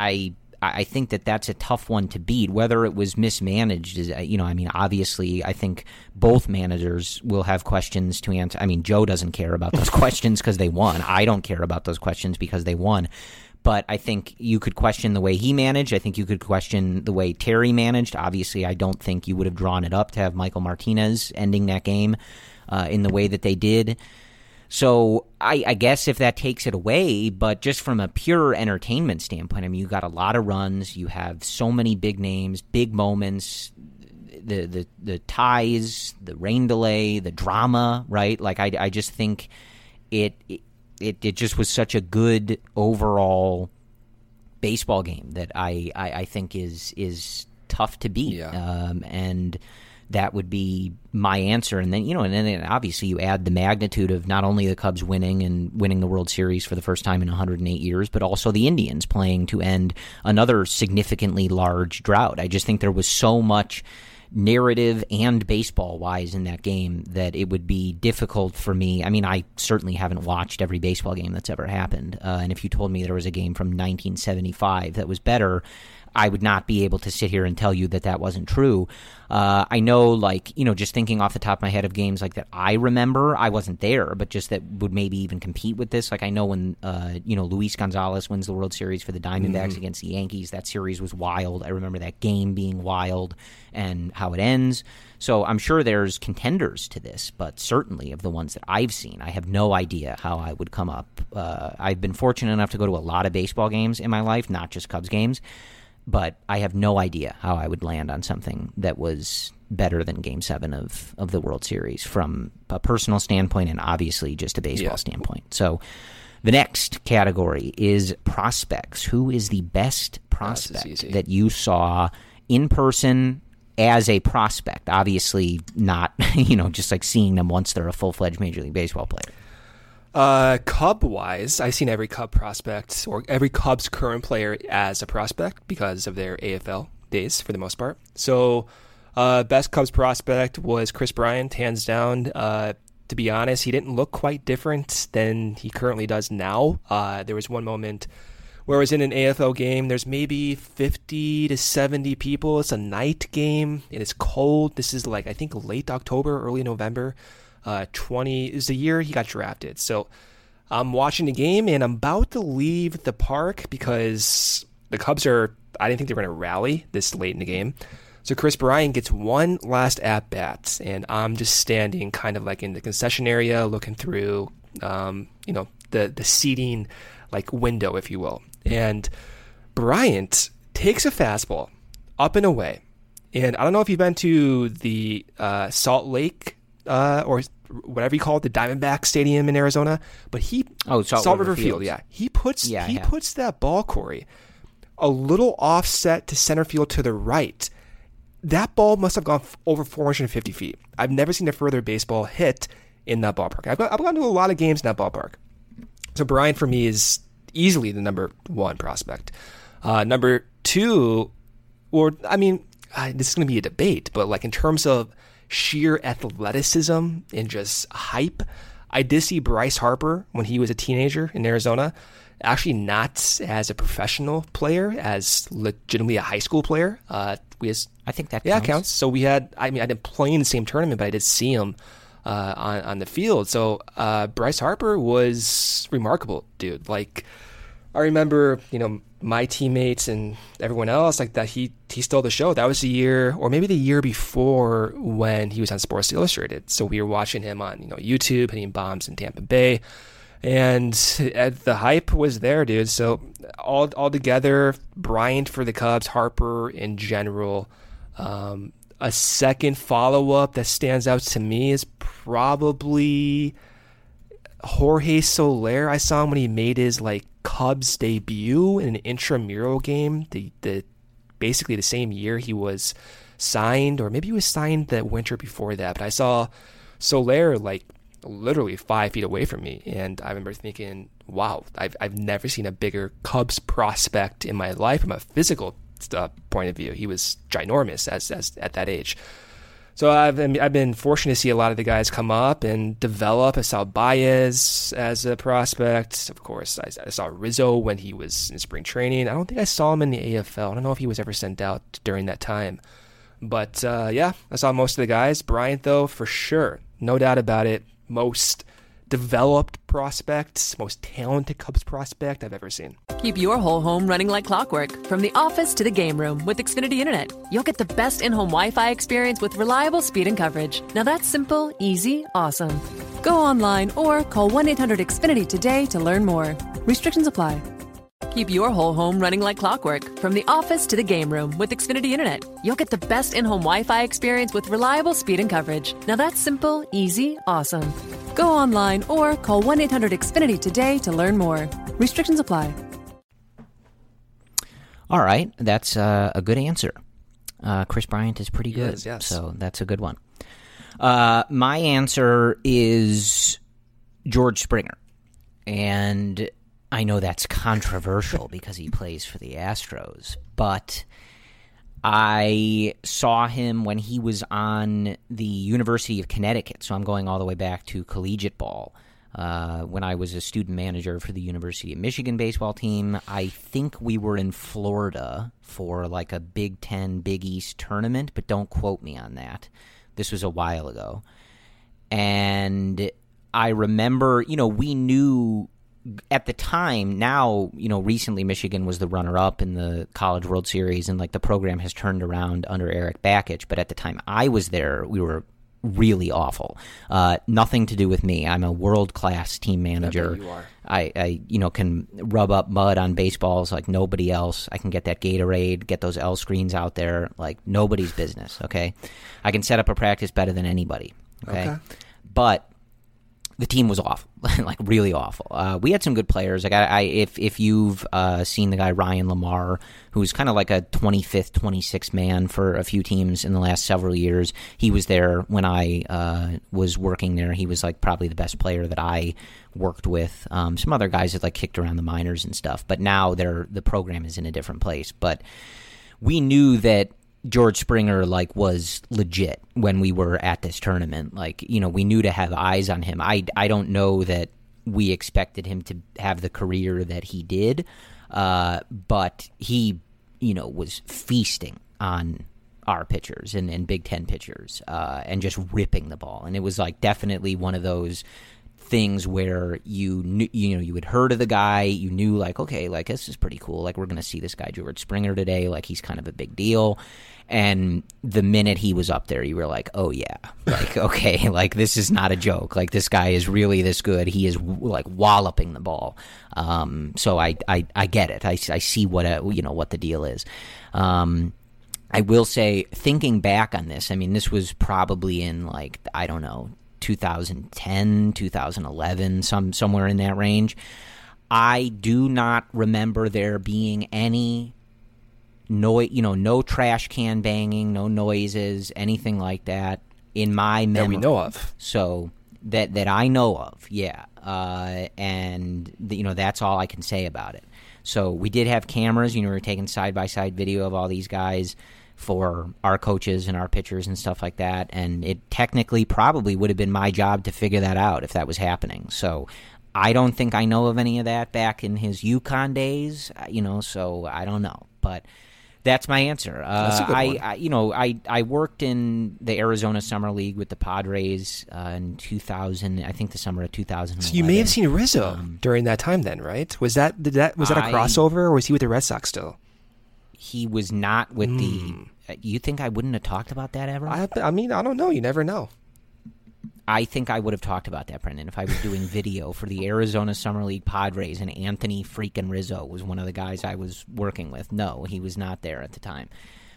I think that's a tough one to beat. Whether it was mismanaged is, obviously I think both managers will have questions to answer. I mean, Joe doesn't care about those questions because they won. I don't care about those questions because they won. But I think you could question the way he managed. I think you could question the way Terry managed. Obviously, I don't think you would have drawn it up to have Michael Martinez ending that game in the way that they did. So I guess if that takes it away, but just from a pure entertainment standpoint, I mean, you got a lot of runs. You have so many big names, big moments, the ties, the rain delay, the drama, right? Like I just think it just was such a good overall baseball game that I think is tough to beat. Yeah. And that would be my answer. And then, and then obviously you add the magnitude of not only the Cubs winning the World Series for the first time in 108 years, but also the Indians playing to end another significantly large drought. I just think there was so much narrative and baseball-wise in that game that it would be difficult for me. I mean, I certainly haven't watched every baseball game that's ever happened. And if you told me there was a game from 1975 that was better, I would not be able to sit here and tell you that wasn't true. I know, just thinking off the top of my head of games like that I remember, I wasn't there, but just that would maybe even compete with this. Like I know when, Luis Gonzalez wins the World Series for the Diamondbacks against the Yankees, that series was wild. I remember that game being wild and how it ends. So I'm sure there's contenders to this, but certainly of the ones that I've seen, I have no idea how I would come up. I've been fortunate enough to go to a lot of baseball games in my life, not just Cubs games. But I have no idea how I would land on something that was better than Game 7 of the World Series from a personal standpoint and obviously just a baseball standpoint. So the next category is prospects. Who is the best prospect that you saw in person as a prospect? Obviously not, just like seeing them once they're a full-fledged Major League Baseball player. Cub-wise, I've seen every Cub prospect or every Cubs current player as a prospect because of their AFL days for the most part. So, best Cubs prospect was Chris Bryant, hands down. To be honest, he didn't look quite different than he currently does now. There was one moment where I was in an AFL game. There's maybe 50 to 70 people. It's a night game. It is cold. This is I think late October, early November. 20 is the year he got drafted. So I'm watching the game and I'm about to leave the park because the Cubs I didn't think they were going to rally this late in the game. So Chris Bryant gets one last at-bat and I'm just standing kind of like in the concession area looking through, the seating window, if you will. And Bryant takes a fastball up and away. And I don't know if you've been to the Salt Lake or whatever you call it, the Diamondback Stadium in Arizona, but Salt River Field. Yeah, he puts that ball, Corey, a little offset to center field to the right. That ball must have gone over 450 feet. I've never seen a further baseball hit in that ballpark. I've gone to a lot of games in that ballpark. So Bryant for me is easily the number one prospect. Number two, this is going to be a debate, but like in terms of sheer athleticism and just hype, I did see Bryce Harper when he was a teenager in Arizona, actually not as a professional player, as legitimately a high school player. I think that counts. Yeah, it counts. So I didn't play in the same tournament, but I did see him on the field. So Bryce Harper was remarkable, dude. Like, I remember, my teammates and everyone else like that. He stole the show. That was the year, or maybe the year before, when he was on Sports Illustrated. So we were watching him on YouTube, hitting bombs in Tampa Bay, and the hype was there, dude. So all together, Bryant for the Cubs, Harper in general. A second follow-up that stands out to me is probably Jorge Soler. I saw him when he made his Cubs debut in an intramural game, basically the same year he was signed, or maybe he was signed the winter before that. But I saw Soler literally 5 feet away from me, and I remember thinking, wow, I've never seen a bigger Cubs prospect in my life from a physical point of view. He was ginormous as at that age. So I've been fortunate to see a lot of the guys come up and develop. I saw Baez as a prospect. Of course, I saw Rizzo when he was in spring training. I don't think I saw him in the AFL. I don't know if he was ever sent out during that time. But I saw most of the guys. Bryant, though, for sure, no doubt about it, most developed prospect, most talented Cubs prospect I've ever seen. Keep your whole home running like clockwork, from the office to the game room with Xfinity Internet. You'll get the best in-home Wi-Fi experience with reliable speed and coverage. Now that's simple, easy, awesome. Go online or call 1-800-XFINITY today to learn more. Restrictions apply. Keep your whole home running like clockwork, from the office to the game room with Xfinity Internet. You'll get the best in-home Wi-Fi experience with reliable speed and coverage. Now that's simple, easy, awesome. Go online or call 1-800-XFINITY today to learn more. Restrictions apply. All right, that's a good answer. Chris Bryant is pretty good, yes. So that's a good one. My answer is George Springer, and I know that's controversial because he plays for the Astros, but I saw him when he was on the University of Connecticut, so I'm going all the way back to collegiate ball. When I was a student manager for the University of Michigan baseball team, I think we were in Florida for a Big Ten, Big East tournament, but don't quote me on that. This was a while ago. And I remember, we knew at the time, now, recently Michigan was the runner-up in the College World Series, and the program has turned around under Eric Bakich. But at the time I was there, we were really awful. Nothing to do with me. I'm a world-class team manager. You are. I can rub up mud on baseballs like nobody else. I can get that Gatorade, get those L screens out there like nobody's business, okay? I can set up a practice better than anybody, okay? But the team was awful, really awful. We had some good players. If you've seen the guy Ryan Lamar, who's kind of like a 25th, 26th man for a few teams in the last several years, he was there when I was working there. He was probably the best player that I worked with. Some other guys that kicked around the minors and stuff, but now the program is in a different place. But we knew that George Springer was legit when we were at this tournament. We knew to have eyes on him. I don't know that we expected him to have the career that he did, but he was feasting on our pitchers and Big Ten pitchers and just ripping the ball. And it was definitely one of those things where you had heard of the guy, you knew okay, this is pretty cool. We're going to see this guy George Springer today. He's kind of a big deal. And the minute he was up there, you were oh yeah, okay, this is not a joke. This guy is really this good. He is walloping the ball. So I get it. I see what what the deal is. And I will say, thinking back on this, I mean, this was probably in, like, I don't know, 2010, 2011, somewhere in that range. I do not remember there being any noise, no trash can banging, no noises, anything like that in my memory. That we know of. So that I know of, yeah. And that's all I can say about it. So we did have cameras. We were taking side-by-side video of all these guys for our coaches and our pitchers and stuff like that. And it technically probably would have been my job to figure that out if that was happening. So I don't think I know of any of that back in his UConn days, so I don't know. But that's my answer. That's a good one. I worked in the Arizona Summer League with the Padres in 2000, I think the summer of 2011. So you may have seen Rizzo during that time then, right? Was that a crossover, or was he with the Red Sox still? He was not with the... You think I wouldn't have talked about that ever? I mean, I don't know. You never know. I think I would have talked about that, Brendan, if I was doing video for the Arizona Summer League Padres and Anthony freaking Rizzo was one of the guys I was working with. No, he was not there at the time.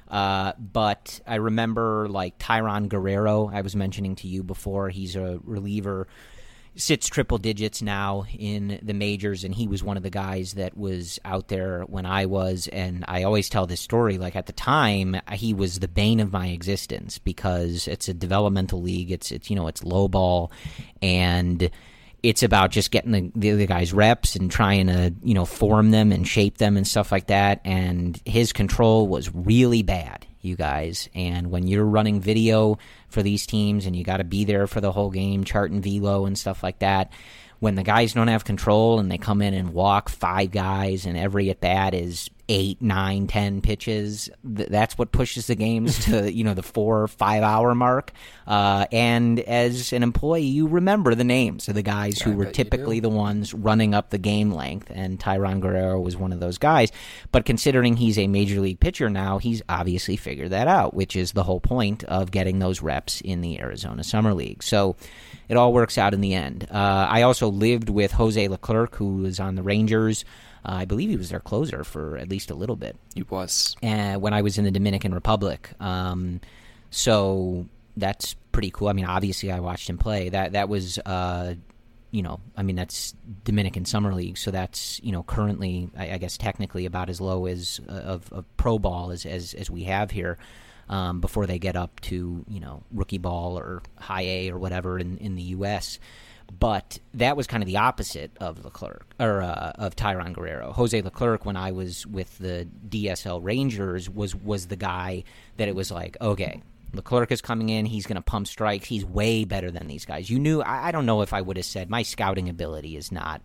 But I remember, like, Tyron Guerrero, I was mentioning to you before. He's a reliever, sits triple digits now in the majors, and he was one of the guys that was out there when I was. And I always tell this story, like, at the time, he was the bane of my existence because it's a developmental league. It's low ball, and it's about just getting the guys reps and trying to, form them and shape them and stuff like that. And his control was really bad, you guys. And when you're running video for these teams and you got to be there for the whole game, charting velo and stuff like that, when the guys don't have control and they come in and walk 5 guys and every at bat is 8, 9, 10 pitches, that's what pushes the games to the 4 or 5 hour mark. And as an employee, you remember the names of the guys who were typically the ones running up the game length, and Tyron Guerrero was one of those guys. But considering he's a major league pitcher now, he's obviously figured that out, which is the whole point of getting those reps in the Arizona Summer League. So it all works out in the end. I also lived with Jose Leclerc, who was on the Rangers. I believe he was their closer for at least a little bit. He was. When I was in the Dominican Republic. So that's pretty cool. I mean, obviously I watched him play. That was, that's Dominican Summer League. So that's, currently, I guess technically about as low as of pro ball as we have here. Before they get up to, rookie ball or high A or whatever in the U.S., but that was kind of the opposite of Leclerc, or of Tyron Guerrero. Jose Leclerc, when I was with the DSL Rangers, was the guy that it was like, okay, Leclerc is coming in, he's going to pump strikes, he's way better than these guys. You knew, I don't know if I would have said, my scouting ability is not,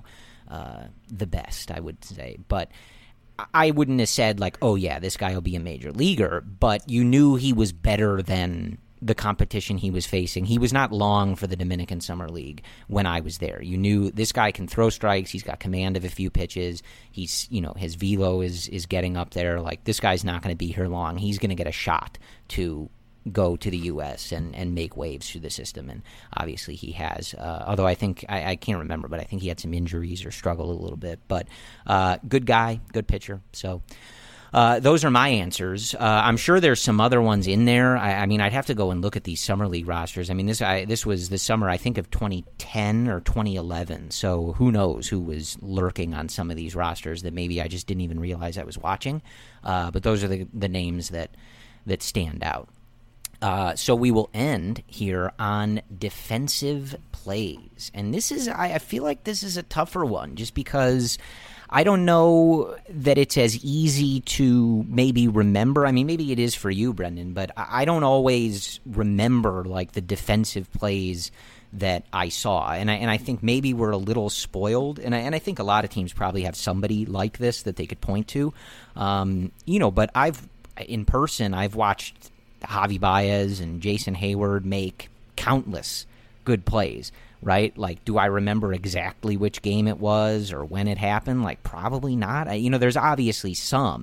the best, I would say, but I wouldn't have said, like, oh, yeah, this guy will be a major leaguer, but you knew he was better than the competition he was facing. He was not long for the Dominican Summer League when I was there. You knew this guy can throw strikes. He's got command of a few pitches. He's, his velo is getting up there. Like, this guy's not going to be here long. He's going to get a shot to go to the U.S. and make waves through the system, and obviously he has. Although I think, I can't remember, but I think he had some injuries or struggled a little bit. But good guy, good pitcher. So those are my answers. I'm sure there's some other ones in there. I mean, I'd have to go and look at these Summer League rosters. I mean, this was the summer, I think, of 2010 or 2011. So who knows who was lurking on some of these rosters that maybe I just didn't even realize I was watching. But those are the names that stand out. So we will end here on defensive plays. And this is, I feel like this is a tougher one just because I don't know that it's as easy to maybe remember. I mean, maybe it is for you, Brendan, but I don't always remember, like, the defensive plays that I saw. And I think maybe we're a little spoiled. And I think a lot of teams probably have somebody like this that they could point to. But I've watched Javi Baez and Jason Hayward make countless good plays, right? Like, do I remember exactly which game it was or when it happened? Like, probably not. There's obviously some,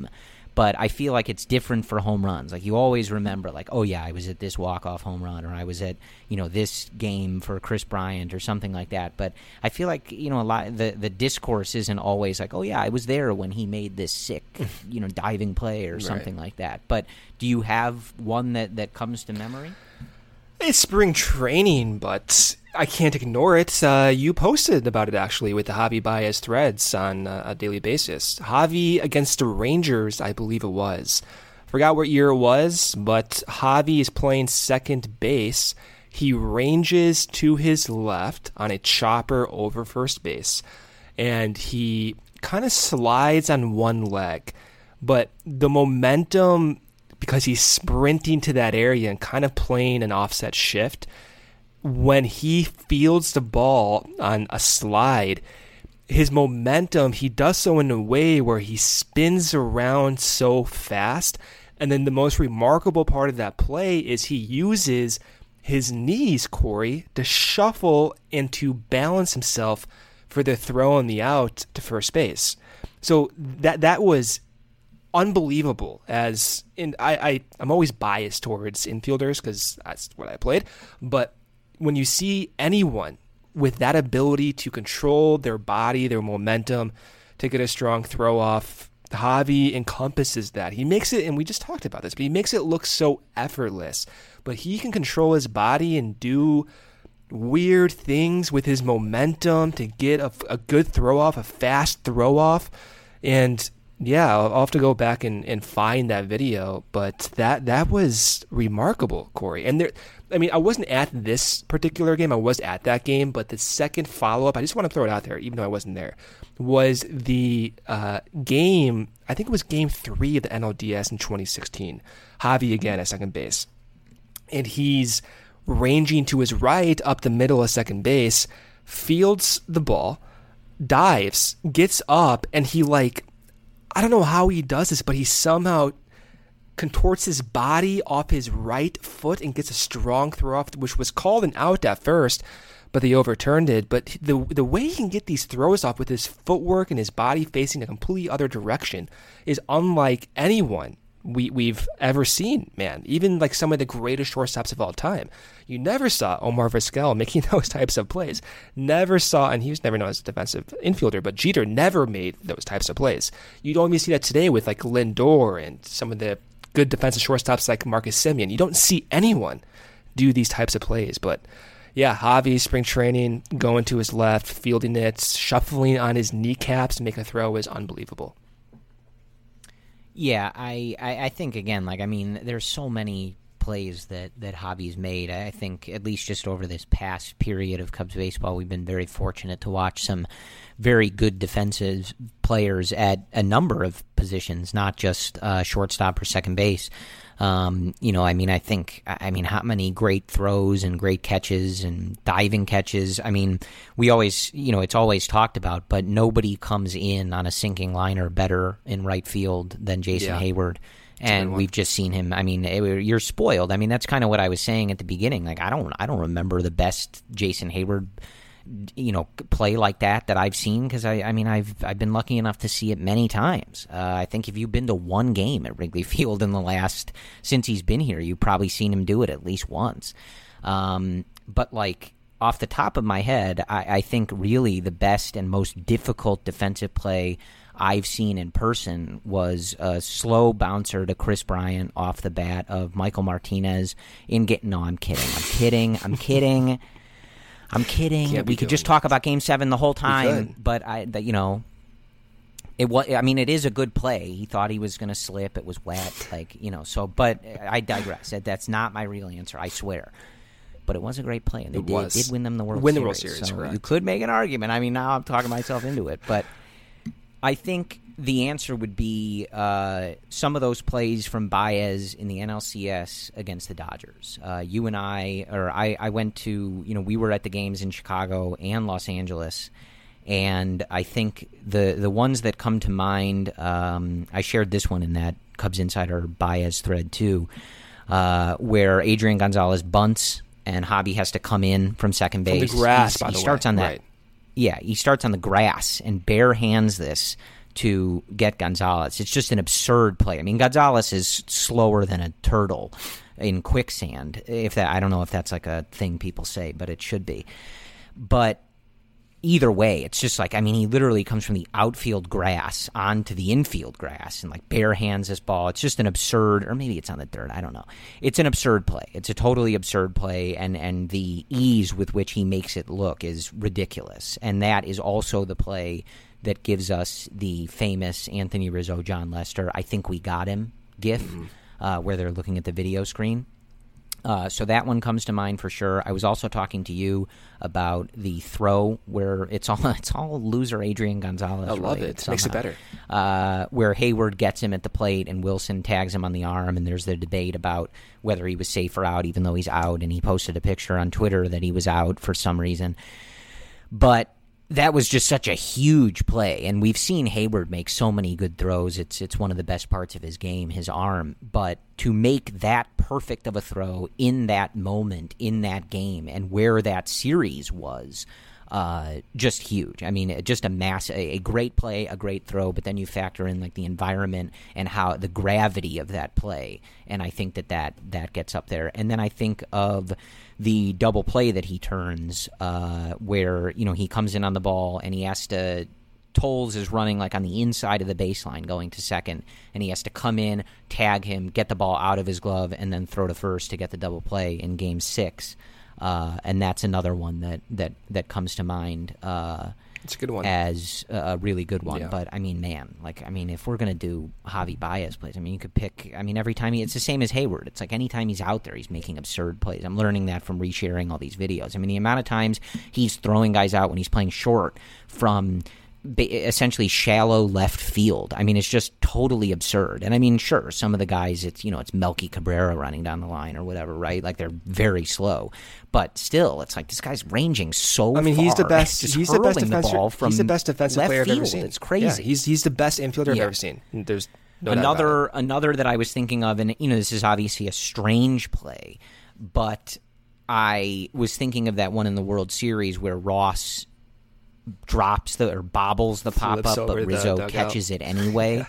But I feel like it's different for home runs. Like, you always remember, like, oh, yeah, I was at this walk-off home run, or I was at, this game for Chris Bryant or something like that. But I feel like, a lot the discourse isn't always like, oh, yeah, I was there when he made this sick, diving play or something like that. But do you have one that comes to memory? It's spring training, but I can't ignore it. You posted about it, actually, with the Javi Baez threads on a daily basis. Javi against the Rangers, I believe it was. Forgot what year it was, but Javi is playing second base. He ranges to his left on a chopper over first base, and he kind of slides on one leg. But the momentum, because he's sprinting to that area and kind of playing an offset shift, when he fields the ball on a slide, his momentum, he does so in a way where he spins around so fast. And then the most remarkable part of that play is he uses his knees, Corey, to shuffle and to balance himself for the throw on the out to first base. So that was unbelievable. I'm always biased towards infielders because that's what I played, but when you see anyone with that ability to control their body, their momentum, to get a strong throw off, Javi encompasses that. He makes it, and we just talked about this, but he makes it look so effortless. But he can control his body and do weird things with his momentum to get a good throw off, a fast throw off. And yeah, I'll have to go back and find that video, but that was remarkable, Corey. And I wasn't at this particular game. I was at that game, but the second follow-up, I just want to throw it out there, even though I wasn't there, was the game, I think it was game 3 of the NLDS in 2016. Javi again at second base. And he's ranging to his right up the middle of second base, fields the ball, dives, gets up, and he I don't know how he does this, but he somehow contorts his body off his right foot and gets a strong throw off, which was called an out at first, but they overturned it. But the way he can get these throws off with his footwork and his body facing a completely other direction is unlike anyone we've ever seen, man. Even some of the greatest shortstops of all time. You never saw Omar Vizquel making those types of plays. Never saw, and he was never known as a defensive infielder, but Jeter never made those types of plays. You don't even see that today with Lindor and some of the good defensive shortstops like Marcus Semien. You don't see anyone do these types of plays, but yeah, Javi, spring training, going to his left, fielding it, shuffling on his kneecaps to make a throw is unbelievable. Yeah, I think, again, there's so many plays that Javi's made. I think at least just over this past period of Cubs baseball, we've been very fortunate to watch some very good defensive players at a number of positions, not just shortstop or second base. I think how many great throws and great catches and diving catches. We always, it's always talked about, but nobody comes in on a sinking liner better in right field than Jason Hayward. And we've just seen him. You're spoiled. That's kind of what I was saying at the beginning. I don't remember the best Jason Hayward, play like that I've seen, because I've been lucky enough to see it many times. I think if you've been to one game at Wrigley Field since he's been here, you've probably seen him do it at least once. But off the top of my head, I think really the best and most difficult defensive play I've seen in person was a slow bouncer to Chris Bryant off the bat of Michael Martinez I'm kidding. We could just talk about Game 7 the whole time, but it is a good play. He thought he was going to slip. It was wet, but I digress. That's not my real answer, I swear. But it was a great play, and they did win them the World Series. So correct. You could make an argument. Now I'm talking myself into it, but I think the answer would be some of those plays from Baez in the NLCS against the Dodgers. You and I went to, we were at the games in Chicago and Los Angeles, and I think the ones that come to mind, I shared this one in that Cubs Insider Baez thread too, where Adrian Gonzalez bunts and Javi has to come in from second base. From the grass, by the way. Starts on that. Right. Yeah, he starts on the grass and bare hands this to get Gonzalez. It's just an absurd play. I mean, Gonzalez is slower than a turtle in quicksand. I don't know if that's like a thing people say, but it should be. But either way, it's just like, I mean, he literally comes from the outfield grass onto the infield grass and like bare hands this ball. It's just an absurd, or maybe it's on the dirt, I don't know. It's an absurd play. It's a totally absurd play, and the ease with which he makes it look is ridiculous. And that is also the play that gives us the famous Anthony Rizzo, John Lester, I think we got him gif, where they're looking at the video screen. So that one comes to mind for sure. I was also talking to you about the throw where it's all loser Adrian Gonzalez. I love it. Somehow. Makes it better. Where Hayward gets him at the plate and Wilson tags him on the arm, and there's the debate about whether he was safe or out, even though he's out, and he posted a picture on Twitter that he was out for some reason. But that was just such a huge play, and we've seen Hayward make so many good throws. It's one of the best parts of his game, his arm. But to make that perfect of a throw in that moment, in that game, and where that series was, just huge. I mean, just a great play, a great throw, but then you factor in like the environment and how the gravity of that play, and I think that gets up there. And then I think of the double play that he turns, where he comes in on the ball and he has to. Tolles is running like on the inside of the baseline going to second, and he has to come in, tag him, get the ball out of his glove, and then throw to first to get the double play in Game 6. And that's another one that comes to mind. It's a good one. As a really good one. Yeah. But, I mean, if we're going to do Javi Baez plays, you could pick, every time it's the same as Hayward. It's like anytime he's out there, he's making absurd plays. I'm learning that from resharing all these videos. The amount of times he's throwing guys out when he's playing short from essentially shallow left field. It's just totally absurd. And sure, some of the guys, it's Melky Cabrera running down the line or whatever, right? Like they're very slow, but still, it's like this guy's ranging so far. He's the best. He's the best defensive. He's the best defensive player I've ever seen. It's crazy. Yeah, he's the best infielder I've ever seen. There's no another that I was thinking of, and this is obviously a strange play, but I was thinking of that one in the World Series where Ross drops bobbles the pop up, but Rizzo catches it anyway.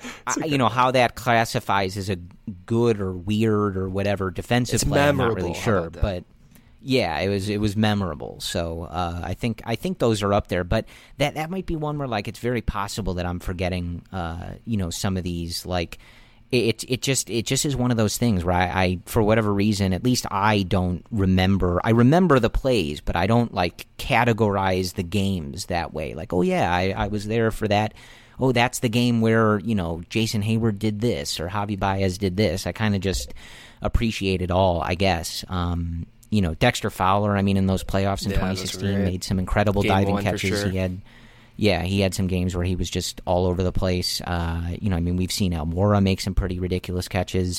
How that classifies as a good or weird or whatever defensive play, I'm not really sure, but yeah, it was memorable. So I think those are up there, but that might be one where like it's very possible that I'm forgetting some of these like. It just is one of those things where I for whatever reason, at least I don't remember. I remember the plays, but I don't like categorize the games that way. Like, oh yeah, I was there for that. Oh, that's the game where Jason Hayward did this or Javi Baez did this. I kind of just appreciate it all, I guess. Dexter Fowler. In those playoffs in 2016, made some incredible diving catches. Sure. He had some games where he was just all over the place. We've seen Almora make some pretty ridiculous catches.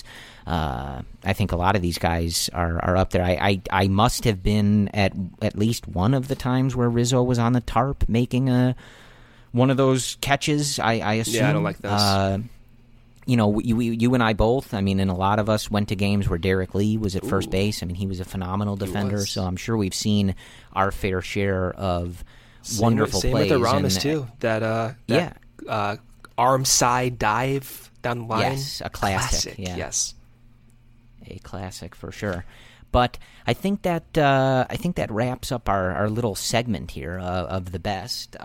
I think a lot of these guys are up there. I must have been at least one of the times where Rizzo was on the tarp making one of those catches. I assume. Yeah, I don't like those. You and I both. And a lot of us went to games where Derek Lee was at first base. He was a phenomenal defender. So I'm sure we've seen our fair share of. Wonderful same plays. With the Ramos too. That arm side dive down the line. Yes, a classic. Yeah. Yes, a classic for sure. But I think that wraps up our little segment here of the best.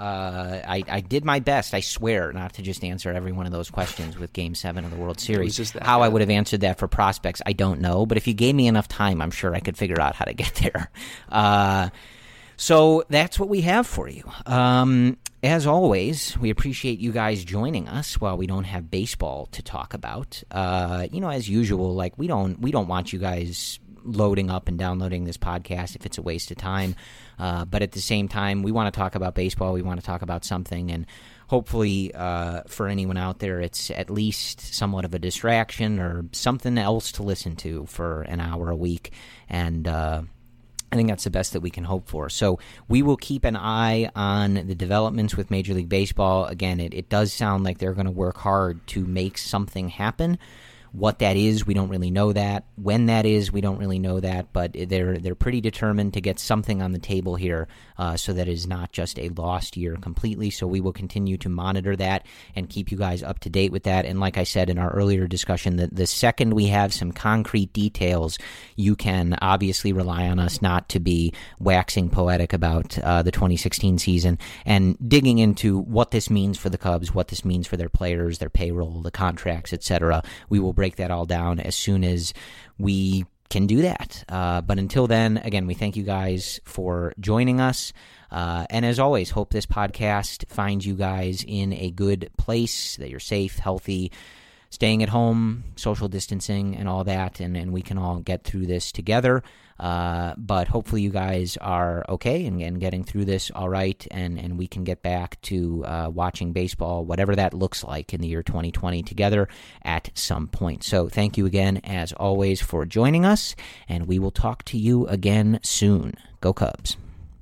I did my best, I swear, not to just answer every one of those questions with Game 7 of the World Series. How I would have answered that for prospects, I don't know. But if you gave me enough time, I'm sure I could figure out how to get there. So that's what we have for you. As always, we appreciate you guys joining us while we don't have baseball to talk about. As usual, like we don't want you guys loading up and downloading this podcast if it's a waste of time. But at the same time, we want to talk about baseball. We want to talk about something, and hopefully for anyone out there, it's at least somewhat of a distraction or something else to listen to for an hour a week. And I think that's the best that we can hope for. So we will keep an eye on the developments with Major League Baseball. Again, it does sound like they're going to work hard to make something happen. What that is, we don't really know that. When that is, we don't really know that. But they're pretty determined to get something on the table here so that it is not just a lost year completely. So we will continue to monitor that and keep you guys up to date with that. And like I said in our earlier discussion, the second we have some concrete details, you can obviously rely on us not to be waxing poetic about the 2016 season and digging into what this means for the Cubs, what this means for their players, their payroll, the contracts, etc. We will break that all down as soon as we can do that. But until then, again, we thank you guys for joining us. And as always, hope this podcast finds you guys in a good place, that you're safe, healthy, staying at home, social distancing, and all that, and we can all get through this together. But hopefully you guys are okay and getting through this all right, and we can get back to watching baseball, whatever that looks like in the year 2020 together at some point. So thank you again, as always, for joining us, and we will talk to you again soon. Go Cubs.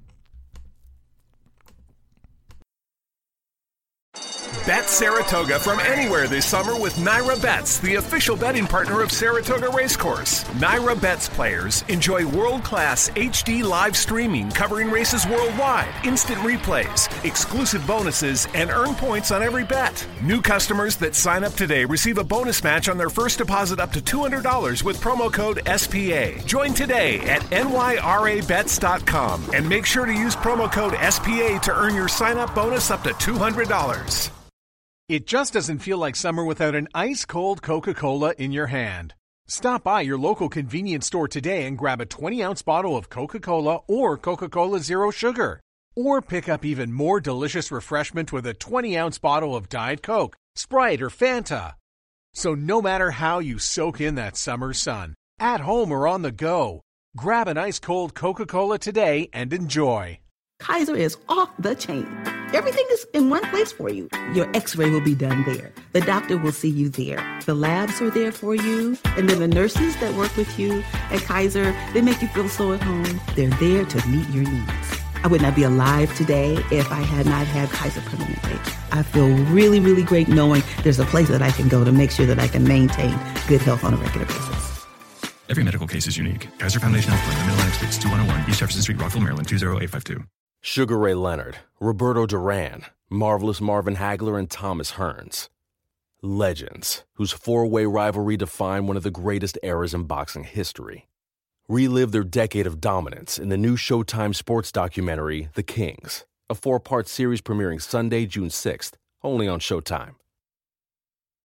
Bet Saratoga from anywhere this summer with Naira Bets, the official betting partner of Saratoga Racecourse. Naira Bets players enjoy world-class HD live streaming covering races worldwide, instant replays, exclusive bonuses, and earn points on every bet. New customers that sign up today receive a bonus match on their first deposit up to $200 with promo code SPA. Join today at nyrabets.com and make sure to use promo code SPA to earn your sign-up bonus up to $200. It just doesn't feel like summer without an ice-cold Coca-Cola in your hand. Stop by your local convenience store today and grab a 20-ounce bottle of Coca-Cola or Coca-Cola Zero Sugar. Or pick up even more delicious refreshment with a 20-ounce bottle of Diet Coke, Sprite, or Fanta. So no matter how you soak in that summer sun, at home or on the go, grab an ice-cold Coca-Cola today and enjoy. Kaiser is off the chain. Everything is in one place for you. Your x-ray will be done there. The doctor will see you there. The labs are there for you. And then the nurses that work with you at Kaiser, they make you feel so at home. They're there to meet your needs. I would not be alive today if I had not had Kaiser Permanente. I feel really, really great knowing there's a place that I can go to make sure that I can maintain good health on a regular basis. Every medical case is unique. Kaiser Foundation Health Plan, Mid-Atlantic States, 2101 East Jefferson Street, Rockville, Maryland, 20852. Sugar Ray Leonard, Roberto Duran, Marvelous Marvin Hagler, and Thomas Hearns. Legends, whose four-way rivalry defined one of the greatest eras in boxing history. Relive their decade of dominance in the new Showtime sports documentary, The Kings, a 4-part series premiering Sunday, June 6th, only on Showtime.